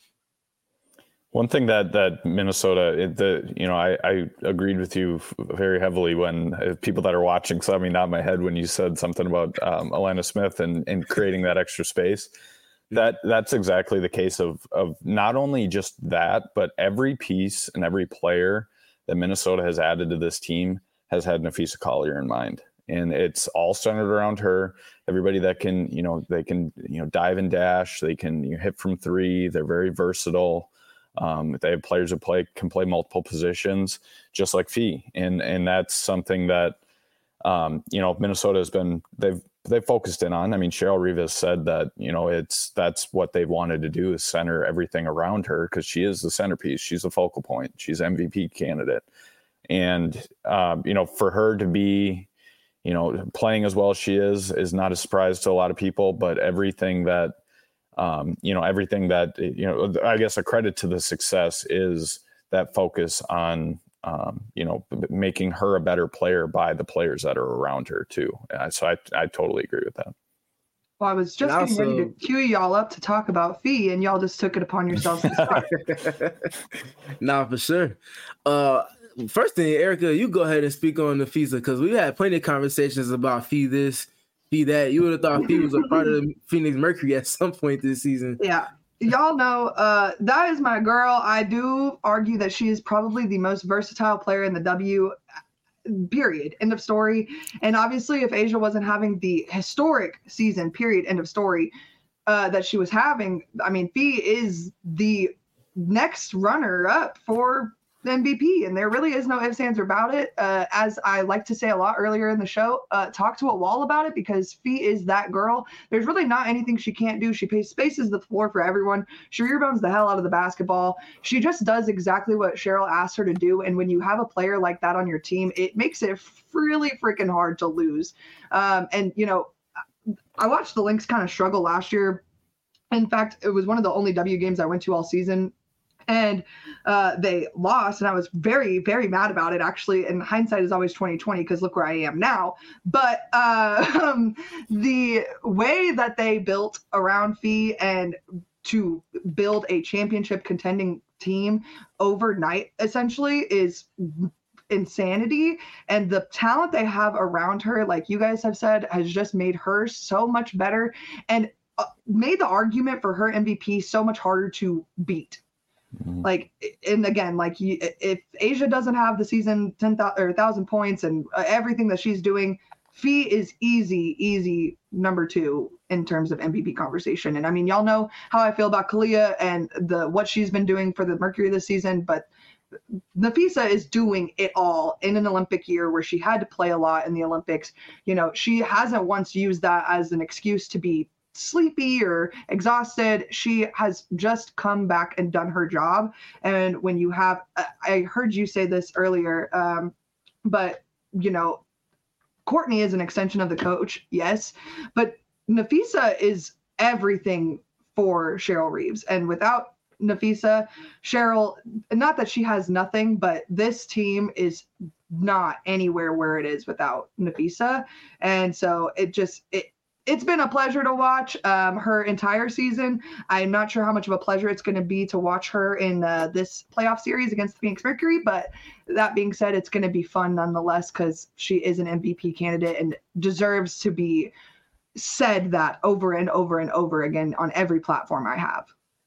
One thing that that Minnesota, it, the you know, I, I agreed with you very heavily when uh, people that are watching saw me nod my head when you said something about um, Alana Smith and, and creating that extra space. That that's exactly the case of of not only just that, but every piece and every player that Minnesota has added to this team has had Napheesa Collier in mind. And it's all centered around her. Everybody that can, you know, they can, you know, dive and dash. They can you know, hit from three. They're very versatile. Um, they have players who play can play multiple positions, just like Fee. And and that's something that, um, you know, Minnesota has been, they've, they've focused in on. I mean, Cheryl Reeve has said that, you know, it's, that's what they've wanted to do is center everything around her because she is the centerpiece. She's the focal point. She's M V P candidate. And, um, you know, for her to be, you know, playing as well as she is, is not a surprise to a lot of people, but everything that, um, you know, everything that, you know, I guess a credit to the success is that focus on, um, you know, making her a better player by the players that are around her too. Uh, so I, I totally agree with that. Well, I was just getting ready to cue y'all up to talk about Fee, and y'all just took it upon yourselves to start. Nah, for sure. Uh, first thing, Erica, you go ahead and speak on Napheesa because we had plenty of conversations about Fee this, Fee that. You would have thought Fee was a part of the Phoenix Mercury at some point this season. Yeah. Y'all know uh, that is my girl. I do argue that she is probably the most versatile player in the W, period, end of story. And obviously, if Asia wasn't having the historic season, period, end of story, uh, that she was having, I mean, Fee is the next runner up for M V P, and there really is no ifs, ands, or about it. Uh, as I like to say a lot earlier in the show, uh, talk to a wall about it because Fee is that girl. There's really not anything she can't do. She pays, spaces the floor for everyone. She rebounds the hell out of the basketball. She just does exactly what Cheryl asked her to do. And when you have a player like that on your team, it makes it really freaking hard to lose. Um, and, you know, I watched the Lynx kind of struggle last year. In fact, it was one of the only W games I went to all season. And uh, they lost, and I was very, very mad about it, actually. And hindsight is always twenty twenty because look where I am now. But uh, um, the way that they built around Fee and to build a championship contending team overnight, essentially, is insanity. And the talent they have around her, like you guys have said, has just made her so much better and uh, made the argument for her M V P so much harder to beat. Mm-hmm. Like, and again, like if A'ja doesn't have the season ten thousand or one thousand points and everything that she's doing, Fee is easy, easy number two in terms of M V P conversation. And I mean, y'all know how I feel about Kalia and the what she's been doing for the Mercury this season, but Napheesa is doing it all in an Olympic year where she had to play a lot in the Olympics. You know, she hasn't once used that as an excuse to be sleepy or exhausted. She has just come back and done her job. And when you have, I heard you say this earlier, um, but, you know, Courtney is an extension of the coach, yes, but Napheesa is everything for Cheryl Reeves. And without Napheesa, Cheryl, not that she has nothing, but this team is not anywhere where it is without Napheesa. And so it just, it, it's been a pleasure to watch um, her entire season. I'm not sure how much of a pleasure it's going to be to watch her in uh, this playoff series against the Phoenix Mercury, but that being said, it's going to be fun nonetheless because she is an M V P candidate and deserves to be said that over and over and over again on every platform I have.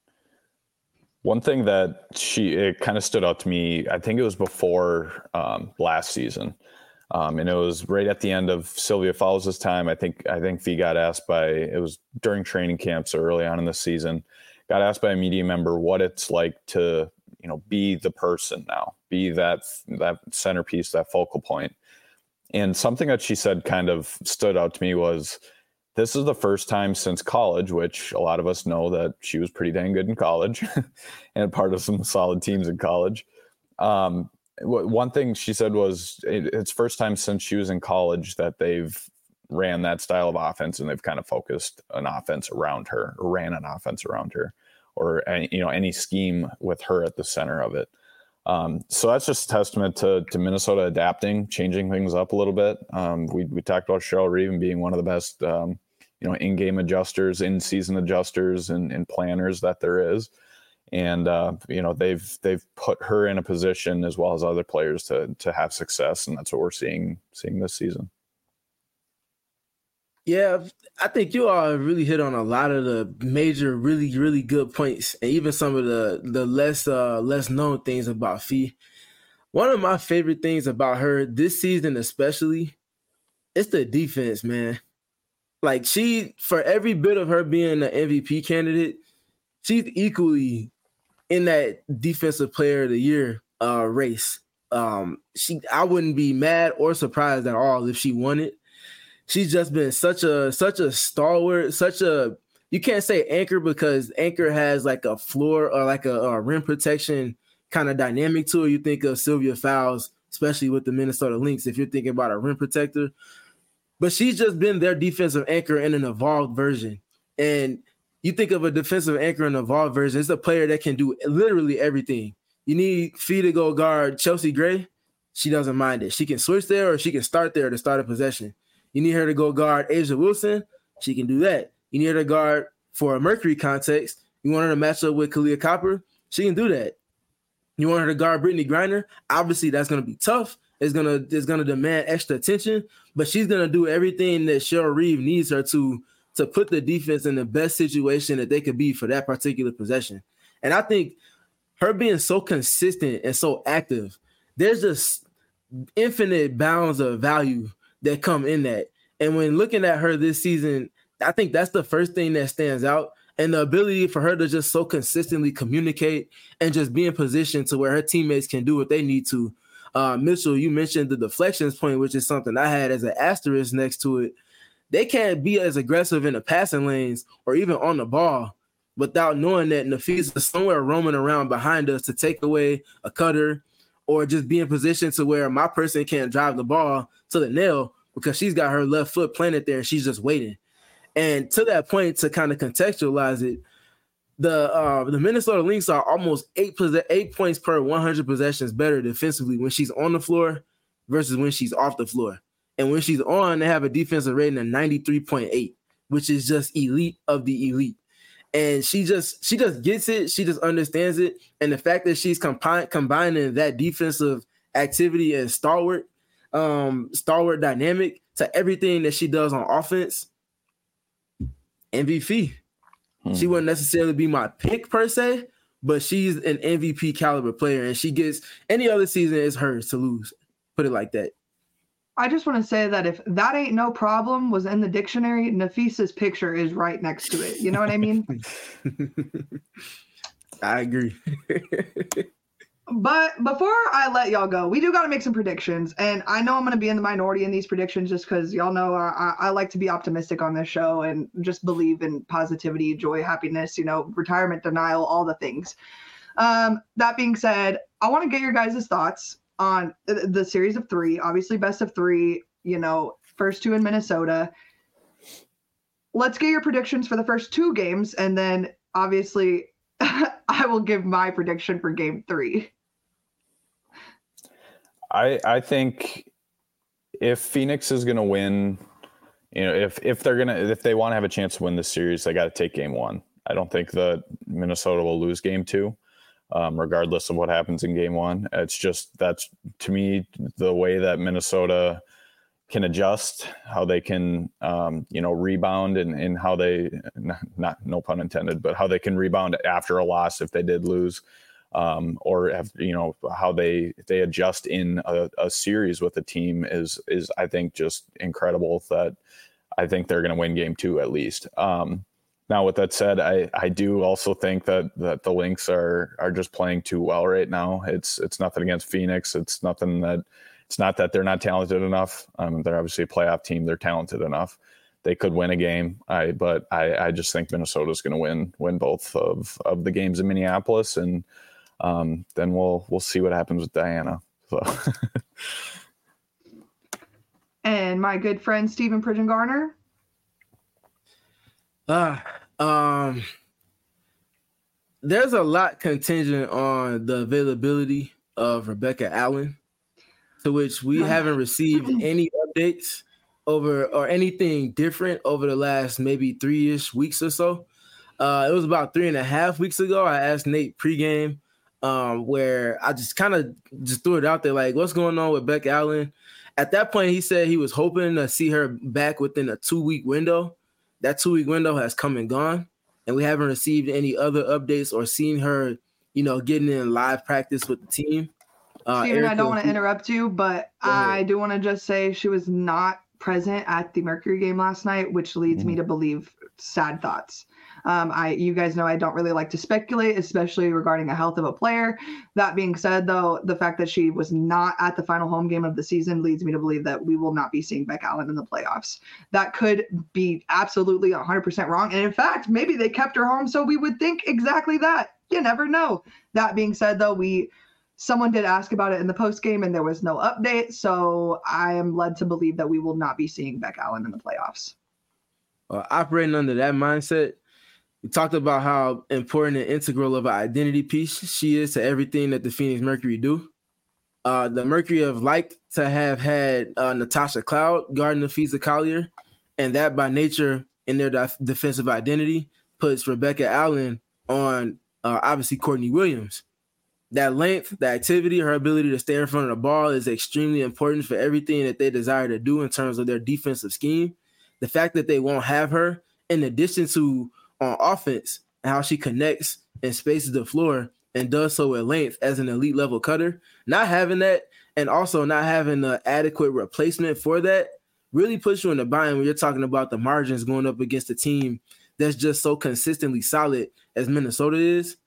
One thing that she, it kind of stood out to me, I think it was before um, last season. Um, and it was right at the end of Sylvia Fowles' time. I think I think Fee got asked by, it was during training camps so early on in the season, got asked by a media member what it's like to, you know, be the person now, be that that centerpiece, that focal point. And something that she said kind of stood out to me was, this is the first time since college, which a lot of us know that she was pretty dang good in college and part of some solid teams in college. Um, One thing she said was it's first time since she was in college that they've ran that style of offense and they've kind of focused an offense around her or ran an offense around her or, you know, any scheme with her at the center of it. Um, so that's just a testament to, to Minnesota adapting, changing things up a little bit. Um, we, we talked about Cheryl Reeve being one of the best, um, you know, in-game adjusters, in-season adjusters and, and planners that there is. And, uh, you know, they've they've put her in a position as well as other players to to have success. And that's what we're seeing seeing this season. Yeah, I think you all really hit on a lot of the major, really, really good points. And even some of the, the less uh, less known things about Fee. One of my favorite things about her this season especially, it's the defense, man. Like she, for every bit of her being an M V P candidate, she's equally in that defensive player of the year uh, race. Um, she, I wouldn't be mad or surprised at all if she won it. She's just been such a such a stalwart, such a, you can't say anchor because anchor has like a floor or like a, a rim protection kind of dynamic to it. You think of Sylvia Fowles, especially with the Minnesota Lynx, if you're thinking about a rim protector. But she's just been their defensive anchor in an evolved version. And you think of a defensive anchor in an evolved version, it's a player that can do literally everything. You need Fee to go guard Chelsea Gray. She doesn't mind it. She can switch there or she can start there to start a possession. You need her to go guard A'ja Wilson. She can do that. You need her to guard for a Mercury context. You want her to match up with Kalia Copper. She can do that. You want her to guard Brittany Griner. Obviously, that's going to be tough. It's going to it's going to demand extra attention, but she's going to do everything that Cheryl Reeve needs her to to put the defense in the best situation that they could be for that particular possession. And I think her being so consistent and so active, there's just infinite bounds of value that come in that. And when looking at her this season, I think that's the first thing that stands out. And the ability for her to just so consistently communicate and just be in position to where her teammates can do what they need to. Uh, Mitchell, you mentioned the deflections point, which is something I had as an asterisk next to it. They can't be as aggressive in the passing lanes or even on the ball without knowing that Napheesa is somewhere roaming around behind us to take away a cutter or just be in position to where my person can't drive the ball to the nail because she's got her left foot planted there and she's just waiting. And to that point, to kind of contextualize it, the uh, the Minnesota Lynx are almost eight, eight points per one hundred possessions better defensively when she's on the floor versus when she's off the floor. And when she's on, they have a defensive rating of ninety-three point eight, which is just elite of the elite. And she just she just gets it. She just understands it. And the fact that she's compi- combining that defensive activity and stalwart, um, stalwart dynamic to everything that she does on offense, M V P. Hmm. She wouldn't necessarily be my pick per se, but she's an M V P caliber player, and she gets any other season is hers to lose. Put it like that. I just want to say that if that ain't no problem was in the dictionary, Nafisa's picture is right next to it. You know what I mean? I agree. But before I let y'all go, we do got to make some predictions. And I know I'm going to be in the minority in these predictions just because y'all know I, I like to be optimistic on this show and just believe in positivity, joy, happiness, you know, retirement denial, all the things. Um, that being said, I want to get your guys' thoughts on the series of three, obviously best of three, you know, first two in Minnesota. Let's get your predictions for the first two games. And then obviously I will give my prediction for game three. I I think if Phoenix is going to win, you know, if, if they're going to, if they want to have a chance to win this series, they got to take game one. I don't think that Minnesota will lose game two. Um, regardless of what happens in game one. It's just, that's to me, the way that Minnesota can adjust, how they can, um, you know, rebound and, and how they, not, no pun intended, but how they can rebound after a loss if they did lose, um, or have, you know, how they, they adjust in a, a series with a team is, is I think just incredible. That I think they're going to win game two at least. Um, Now, with that said, I, I do also think that, that the Lynx are are just playing too well right now. It's it's nothing against Phoenix. It's nothing that it's not that they're not talented enough. Um, they're obviously a playoff team. They're talented enough. They could win a game. I but I, I just think Minnesota's going to win win both of, of the games in Minneapolis, and um, then we'll we'll see what happens with Diana. So. And my good friend Stephen Pridgeon Garner. Uh, um, there's a lot contingent on the availability of Rebecca Allen, to which we haven't received any updates over or anything different over the last maybe three-ish weeks or so. Uh, it was about three and a half weeks ago. I asked Nate pregame, um, where I just kind of just threw it out there, like, what's going on with Rebecca Allen? At that point, he said he was hoping to see her back within a two-week window. That two-week window has come and gone, and we haven't received any other updates or seen her, you know, getting in live practice with the team. Uh, Steven, Erica, I don't want to interrupt you, but I do want to just say she was not present at the Mercury game last night, which leads mm-hmm. me to believe sad thoughts. Um, I, you guys know I don't really like to speculate, especially regarding the health of a player. That being said, though, the fact that she was not at the final home game of the season leads me to believe that we will not be seeing Beck Allen in the playoffs. That could be absolutely one hundred percent wrong. And in fact, maybe they kept her home so we would think exactly that. You never know. That being said, though, we someone did ask about it in the post game and there was no update. So I am led to believe that we will not be seeing Beck Allen in the playoffs. Uh, operating under that mindset, we talked about how important and integral of an identity piece she is to everything that the Phoenix Mercury do. Uh, the Mercury have liked to have had uh, Natasha Cloud guarding Napheesa Collier, and that by nature in their def- defensive identity puts Rebecca Allen on uh, obviously Courtney Williams. That length, the activity, her ability to stay in front of the ball is extremely important for everything that they desire to do in terms of their defensive scheme. The fact that they won't have her, in addition to on offense and how she connects and spaces the floor and does so at length as an elite level cutter, not having that and also not having the adequate replacement for that really puts you in the bind when you're talking about the margins going up against a team that's just so consistently solid as Minnesota is.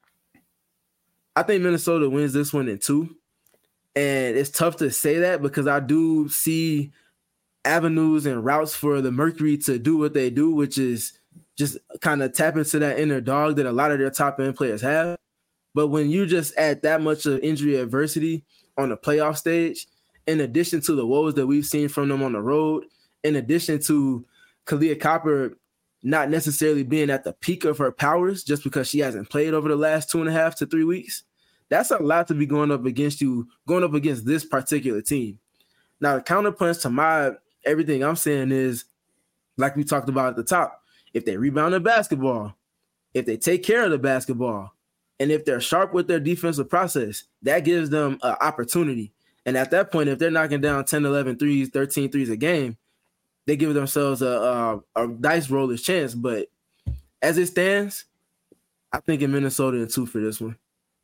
I think Minnesota wins this one in two. And it's tough to say that because I do see avenues and routes for the Mercury to do what they do, which is just kind of tap into that inner dog that a lot of their top end players have. But when you just add that much of injury adversity on the playoff stage, in addition to the woes that we've seen from them on the road, in addition to Kahleah Copper not necessarily being at the peak of her powers just because she hasn't played over the last two and a half to three weeks, that's a lot to be going up against you, going up against this particular team. Now, the counterpunch to my everything I'm saying is, like we talked about at the top, if they rebound the basketball, If they take care of the basketball, and if they're sharp with their defensive process, that gives them an opportunity. And at that point, if they're knocking down ten, eleven threes, thirteen threes a game, they give themselves a, a, a dice roller's chance. But as it stands, I think in Minnesota in two for this one.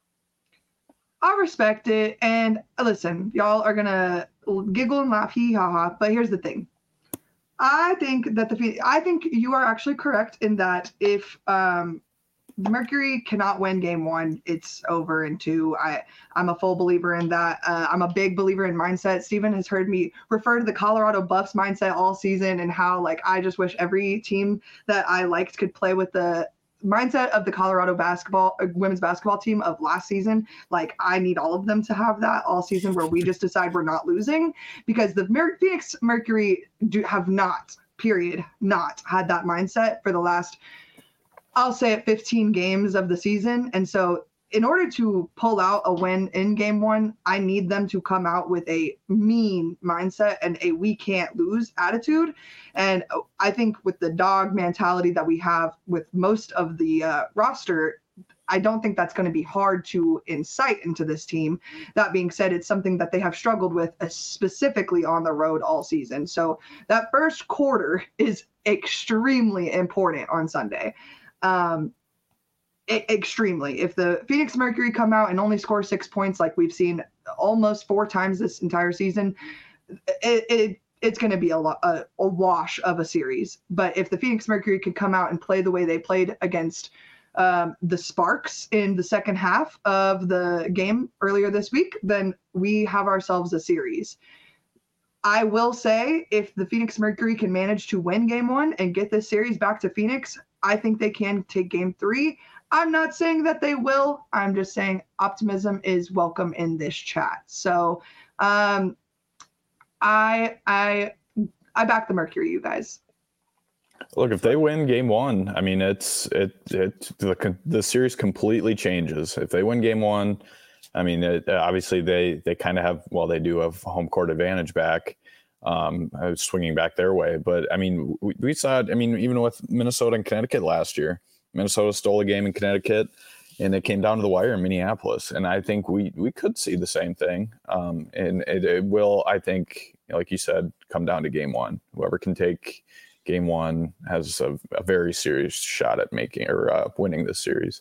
I respect it. And listen, y'all are going to giggle and laugh, hee ha ha. But here's the thing. I think that the I think you are actually correct in that if um, Mercury cannot win game one, it's over in two. I, I'm a full believer in that. Uh, I'm a big believer in mindset. Steven has heard me refer to the Colorado Buffs mindset all season and how, like, I just wish every team that I liked could play with the mindset of the Colorado basketball uh, women's basketball team of last season. Like, I need all of them to have that all season, where we just decide we're not losing, because the Mer- Phoenix Mercury do have not, period, not had that mindset for the last, I'll say it, fifteen games of the season. And so in order to pull out a win in game one, I need them to come out with a mean mindset and a we can't lose attitude. And I think with the dog mentality that we have with most of the uh, roster, I don't think that's going to be hard to incite into this team. That being said, it's something that they have struggled with, uh, specifically on the road all season. So that first quarter is extremely important on Sunday. Um, it, extremely. If the Phoenix Mercury come out and only score six points like we've seen almost four times this entire season, it, it it's going to be a, a, a wash of a series. But if the Phoenix Mercury could come out and play the way they played against um, the Sparks in the second half of the game earlier this week, then we have ourselves a series. I will say, if the Phoenix Mercury can manage to win game one and get this series back to Phoenix, I think they can take game three. I'm not saying that they will. I'm just saying optimism is welcome in this chat. So um, I I I back the Mercury, you guys. Look, if they win game one, I mean, it's it it the the series completely changes. If they win game one, I mean, it, obviously they they kind of have, well, they do have home court advantage back, um, swinging back their way. But I mean, we, we saw it. I mean, even with Minnesota and Connecticut last year, Minnesota stole a game in Connecticut, and it came down to the wire in Minneapolis. And I think we we could see the same thing. Um, and it, it will, I think, like you said, come down to game one. Whoever can take game one has a, a very serious shot at making or uh, winning this series.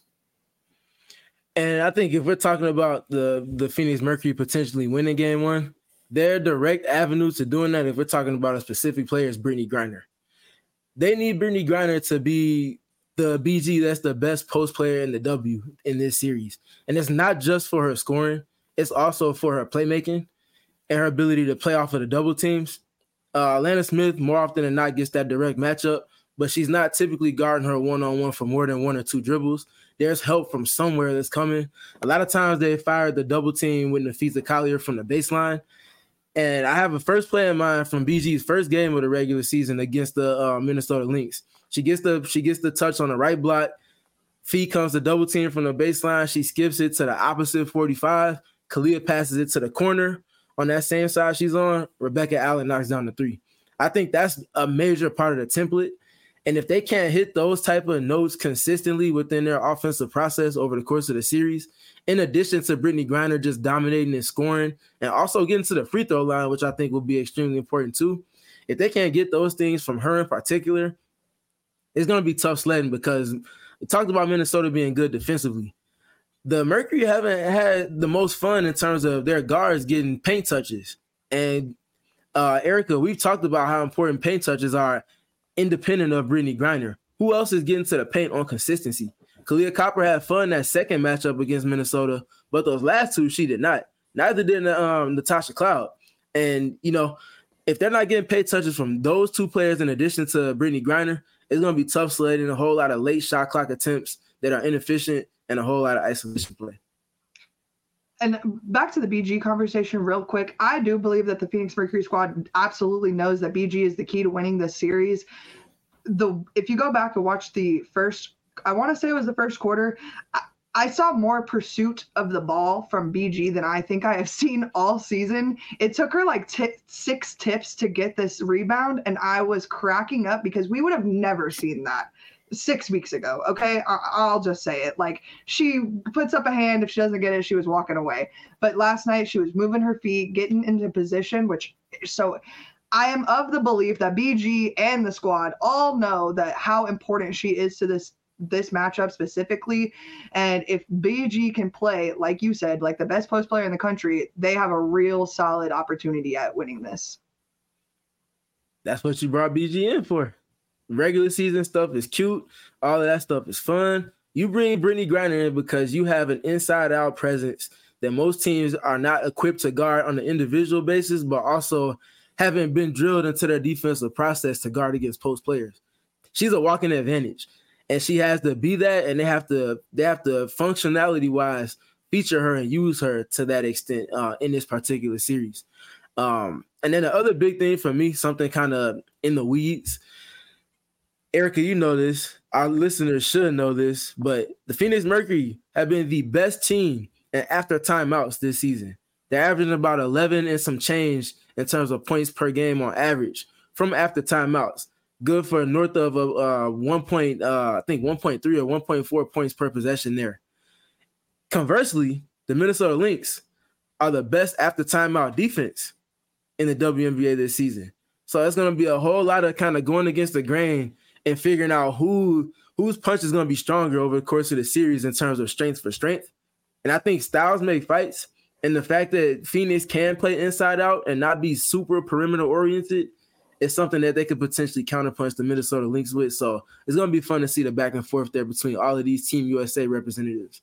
And I think if we're talking about the, the Phoenix Mercury potentially winning game one, their direct avenue to doing that, if we're talking about a specific player, is Brittney Griner. They need Brittney Griner to be the B G that's the best post player in the W in this series. And it's not just for her scoring. It's also for her playmaking and her ability to play off of the double teams. Uh, Atlanta Smith, more often than not, gets that direct matchup, but she's not typically guarding her one-on-one for more than one or two dribbles. There's help from somewhere that's coming. A lot of times they fired the double team with Nafisa Collier from the baseline. And I have a first play in mind from B G's first game of the regular season against the uh, Minnesota Lynx. She gets the she gets the touch on the right block. Fee comes the double team from the baseline. She skips it to the opposite forty-five. Kalia passes it to the corner. On that same side she's on, Rebecca Allen knocks down the three. I think that's a major part of the template. And if they can't hit those type of notes consistently within their offensive process over the course of the series, in addition to Brittney Griner just dominating and scoring and also getting to the free throw line, which I think will be extremely important too, if they can't get those things from her in particular, it's going to be tough sledding, because we talked about Minnesota being good defensively. The Mercury haven't had the most fun in terms of their guards getting paint touches. And uh, Erica, we've talked about how important paint touches are independent of Brittney Griner. Who else is getting to the paint on consistency? Kalia Copper had fun that second matchup against Minnesota, but those last two, she did not. Neither did um, Natasha Cloud. And, you know, if they're not getting paint touches from those two players in addition to Brittney Griner, it's going to be tough sledding, a whole lot of late shot clock attempts that are inefficient, and a whole lot of isolation play. And back to the B G conversation real quick. I do believe that the Phoenix Mercury squad absolutely knows that B G is the key to winning this series. The if you go back and watch the first, I want to say it was the first quarter, I, I saw more pursuit of the ball from B G than I think I have seen all season. It took her like t- six tips to get this rebound, and I was cracking up because we would have never seen that. six weeks ago. Okay. I- I'll just say it. Like, she puts up a hand. If she doesn't get it, she was walking away. But last night she was moving her feet, getting into position, which so I am of the belief that B G and the squad all know that how important she is to this this matchup specifically. And if B G can play, like you said, like the best post player in the country, they have a real solid opportunity at winning this. That's what you brought B G in for. Regular season stuff is cute. All of that stuff is fun. You bring Brittney Griner in because you have an inside-out presence that most teams are not equipped to guard on an individual basis, but also haven't been drilled into their defensive process to guard against post players. She's a walking advantage, and she has to be that, and they have to they have to functionality-wise feature her and use her to that extent uh, in this particular series. Um, and then the other big thing for me, something kind of in the weeds, Erica, you know this, our listeners should know this, but the Phoenix Mercury have been the best team in after timeouts this season. They're averaging about eleven and some change in terms of points per game on average from after timeouts. Good for north of a uh, one point, uh, I think one point three or one point four points per possession there. Conversely, the Minnesota Lynx are the best after timeout defense in the W N B A this season. So it's going to be a whole lot of kind of going against the grain and figuring out who whose punch is going to be stronger over the course of the series in terms of strength for strength. And I think styles make fights. And the fact that Phoenix can play inside out and not be super perimeter oriented is something that they could potentially counterpunch the Minnesota Lynx with. So it's going to be fun to see the back and forth there between all of these Team U S A representatives.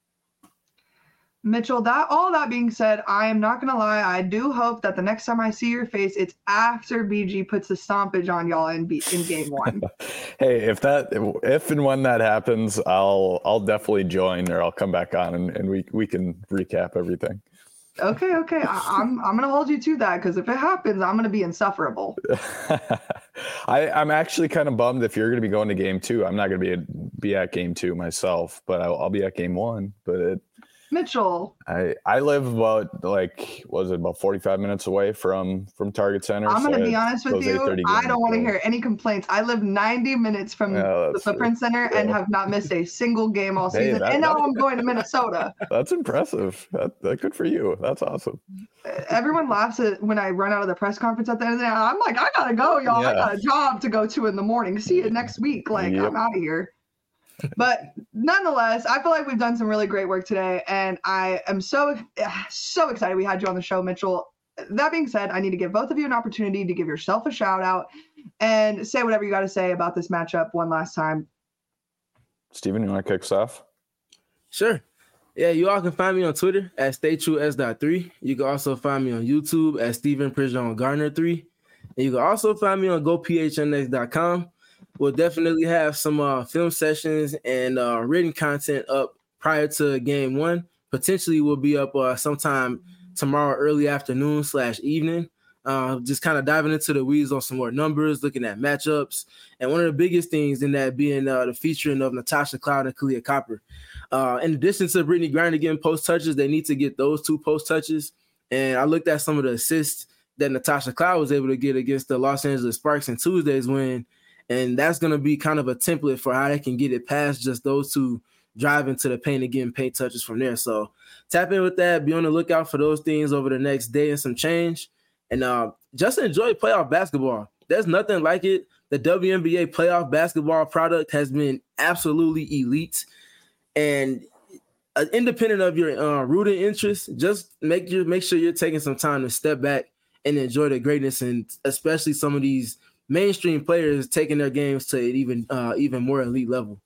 Mitchell, that all that being said, I am not going to lie. I do hope that the next time I see your face, it's after B G puts the stompage on y'all in, B- in game one. Hey, if that, if and when that happens, I'll, I'll definitely join, or I'll come back on and, and we, we can recap everything. Okay, okay. I, I'm I'm gonna hold you to that, because if it happens, I'm gonna be insufferable. I, I'm actually kind of bummed if you're gonna be going to game two. I'm not gonna be a, be at game two myself, but I'll, I'll be at game one. But it, Mitchell, I I live about like was it about forty-five minutes away from from Target Center. I'm gonna so be honest with you. I don't want to hear any complaints. I live ninety minutes from yeah, the Footprint Center and have not missed a single game all Hey, season. that, and now that, I'm going to Minnesota. That's impressive. That, that good for you. That's awesome. Everyone laughs at when I run out of the press conference at the end of the day. I'm like, I gotta go, y'all. Yeah. I got a job to go to in the morning. See you next week. Like, Yep. I'm out of here. But nonetheless, I feel like we've done some really great work today, and I am so so excited we had you on the show, Mitchell. That being said, I need to give both of you an opportunity to give yourself a shout out and say whatever you got to say about this matchup one last time. Steven, you want to kick us off? Sure. Yeah, you all can find me on Twitter at stay true s dot three. You can also find me on YouTube at Steven Prijon Garner three. And you can also find me on go p h n x dot com. We'll definitely have some uh, film sessions and uh, written content up prior to game one. Potentially we'll be up uh, sometime tomorrow early afternoon slash evening. Uh, just kind of diving into the weeds on some more numbers, looking at matchups. And one of the biggest things in that being uh, the featuring of Natasha Cloud and Kahleah Copper. Uh, in addition to Brittney Griner getting post touches, they need to get those two post touches. And I looked at some of the assists that Natasha Cloud was able to get against the Los Angeles Sparks in Tuesday's win. And that's going to be kind of a template for how they can get it past just those two driving to the paint and getting paint touches from there. So tap in with that. Be on the lookout for those things over the next day and some change. And uh, just enjoy playoff basketball. There's nothing like it. The W N B A playoff basketball product has been absolutely elite. And uh, independent of your uh, rooting interest, just make your make sure you're taking some time to step back and enjoy the greatness, and especially some of these mainstream players taking their games to an even uh, even more elite level.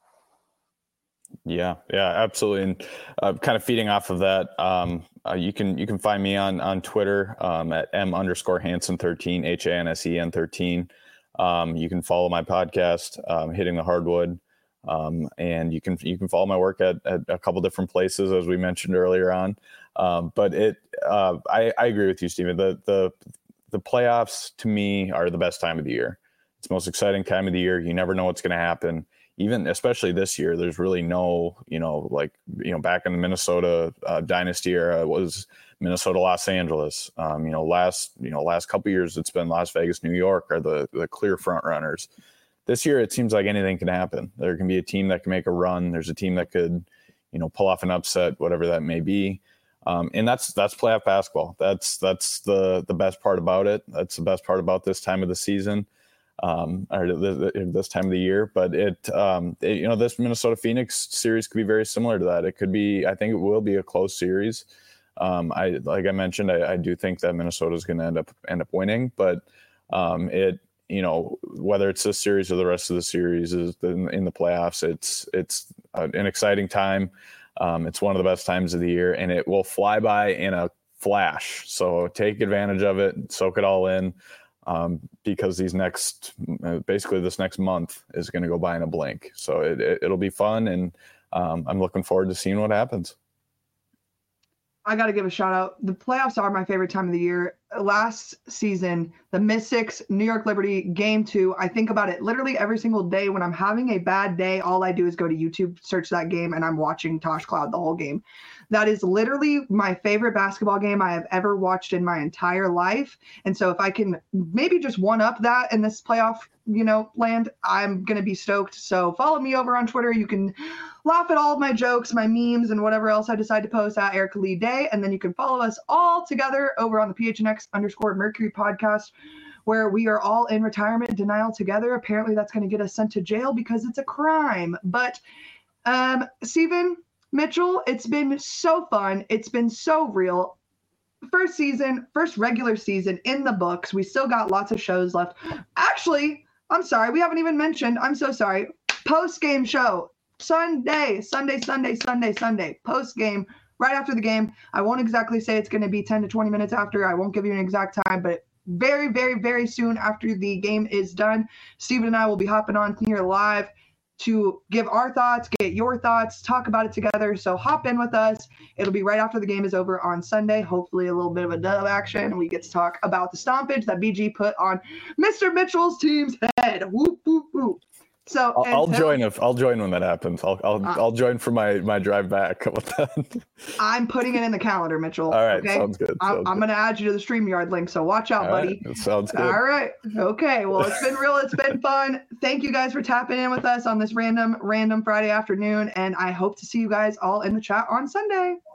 Yeah, yeah, absolutely. And uh, kind of feeding off of that, um, uh, you can you can find me on on Twitter um, at m underscore Hansen thirteen, H A N S E N thirteen. Um, you can follow my podcast, um, Hitting the Hardwood, um, and you can you can follow my work at, at a couple different places, as we mentioned earlier on. Um, but it, uh, I, I agree with you, Steven. The the the playoffs to me are the best time of the year. It's the most exciting time of the year. You never know what's going to happen. Even especially this year, there's really no, you know, like, you know, back in the Minnesota uh, dynasty era, it was Minnesota, Los Angeles. Um, you know, last, you know, last couple of years, it's been Las Vegas, New York are the, the clear front runners. this year it seems like anything can happen. There can be a team that can make a run. There's a team that could, you know, pull off an upset, whatever that may be. Um, and that's that's playoff basketball. That's that's the the best part about it. That's the best part about this time of the season, um, or the, the, this time of the year. But it, um, it, you know, this Minnesota Phoenix series could be very similar to that. It could be. I think it will be a close series. Um, I like I mentioned, I, I do think that Minnesota is going to end up end up winning. But um, it, you know, whether it's this series or the rest of the series is in, in the playoffs, it's it's an exciting time. Um, it's one of the best times of the year, and it will fly by in a flash. So take advantage of it, soak it all in, um, because these next, basically this next month is going to go by in a blink. So it, it, it'll be fun, and um, I'm looking forward to seeing what happens. I got to give a shout out. The playoffs are my favorite time of the year. Last season, the Mystics, New York Liberty, game two. I think about it literally every single day. When I'm having a bad day, all I do is go to YouTube, search that game, and I'm watching Tosh Cloud the whole game. That is literally my favorite basketball game I have ever watched in my entire life. And so if I can maybe just one up that in this playoff, you know, land, I'm going to be stoked. So follow me over on Twitter. You can laugh at all of my jokes, my memes, and whatever else I decide to post at Erica Lee Day. And then you can follow us all together over on the P H N X underscore Mercury podcast, where we are all in retirement denial together. Apparently that's going to get us sent to jail because it's a crime. But um, Steven, Mitchell, it's been so fun. It's been so real. First season, first regular season in the books. We still got lots of shows left. Actually, I'm sorry. We haven't even mentioned, I'm so sorry, post-game show. Sunday, Sunday, Sunday, Sunday, Sunday, post-game, right after the game. I won't exactly say it's going to be ten to twenty minutes after. I won't give you an exact time, but very, very, very soon after the game is done, Steven and I will be hopping on here live to give our thoughts, get your thoughts, talk about it together. So hop in with us. It'll be right after the game is over on Sunday. Hopefully a little bit of a dub action, and we get to talk about the stompage that B G put on Mister Mitchell's team's head. Whoop, whoop, whoop. So I'll, I'll until, join if I'll join when that happens. I'll I'll uh, I'll join for my my drive back. How about that? I'm putting it in the calendar, Mitchell. All right, okay? sounds good. Sounds I'm, I'm going to add you to the StreamYard link, so watch out, All buddy. Right, sounds good. All right. Okay. Well, it's been real. It's been fun. Thank you guys for tapping in with us on this random random Friday afternoon, and I hope to see you guys all in the chat on Sunday.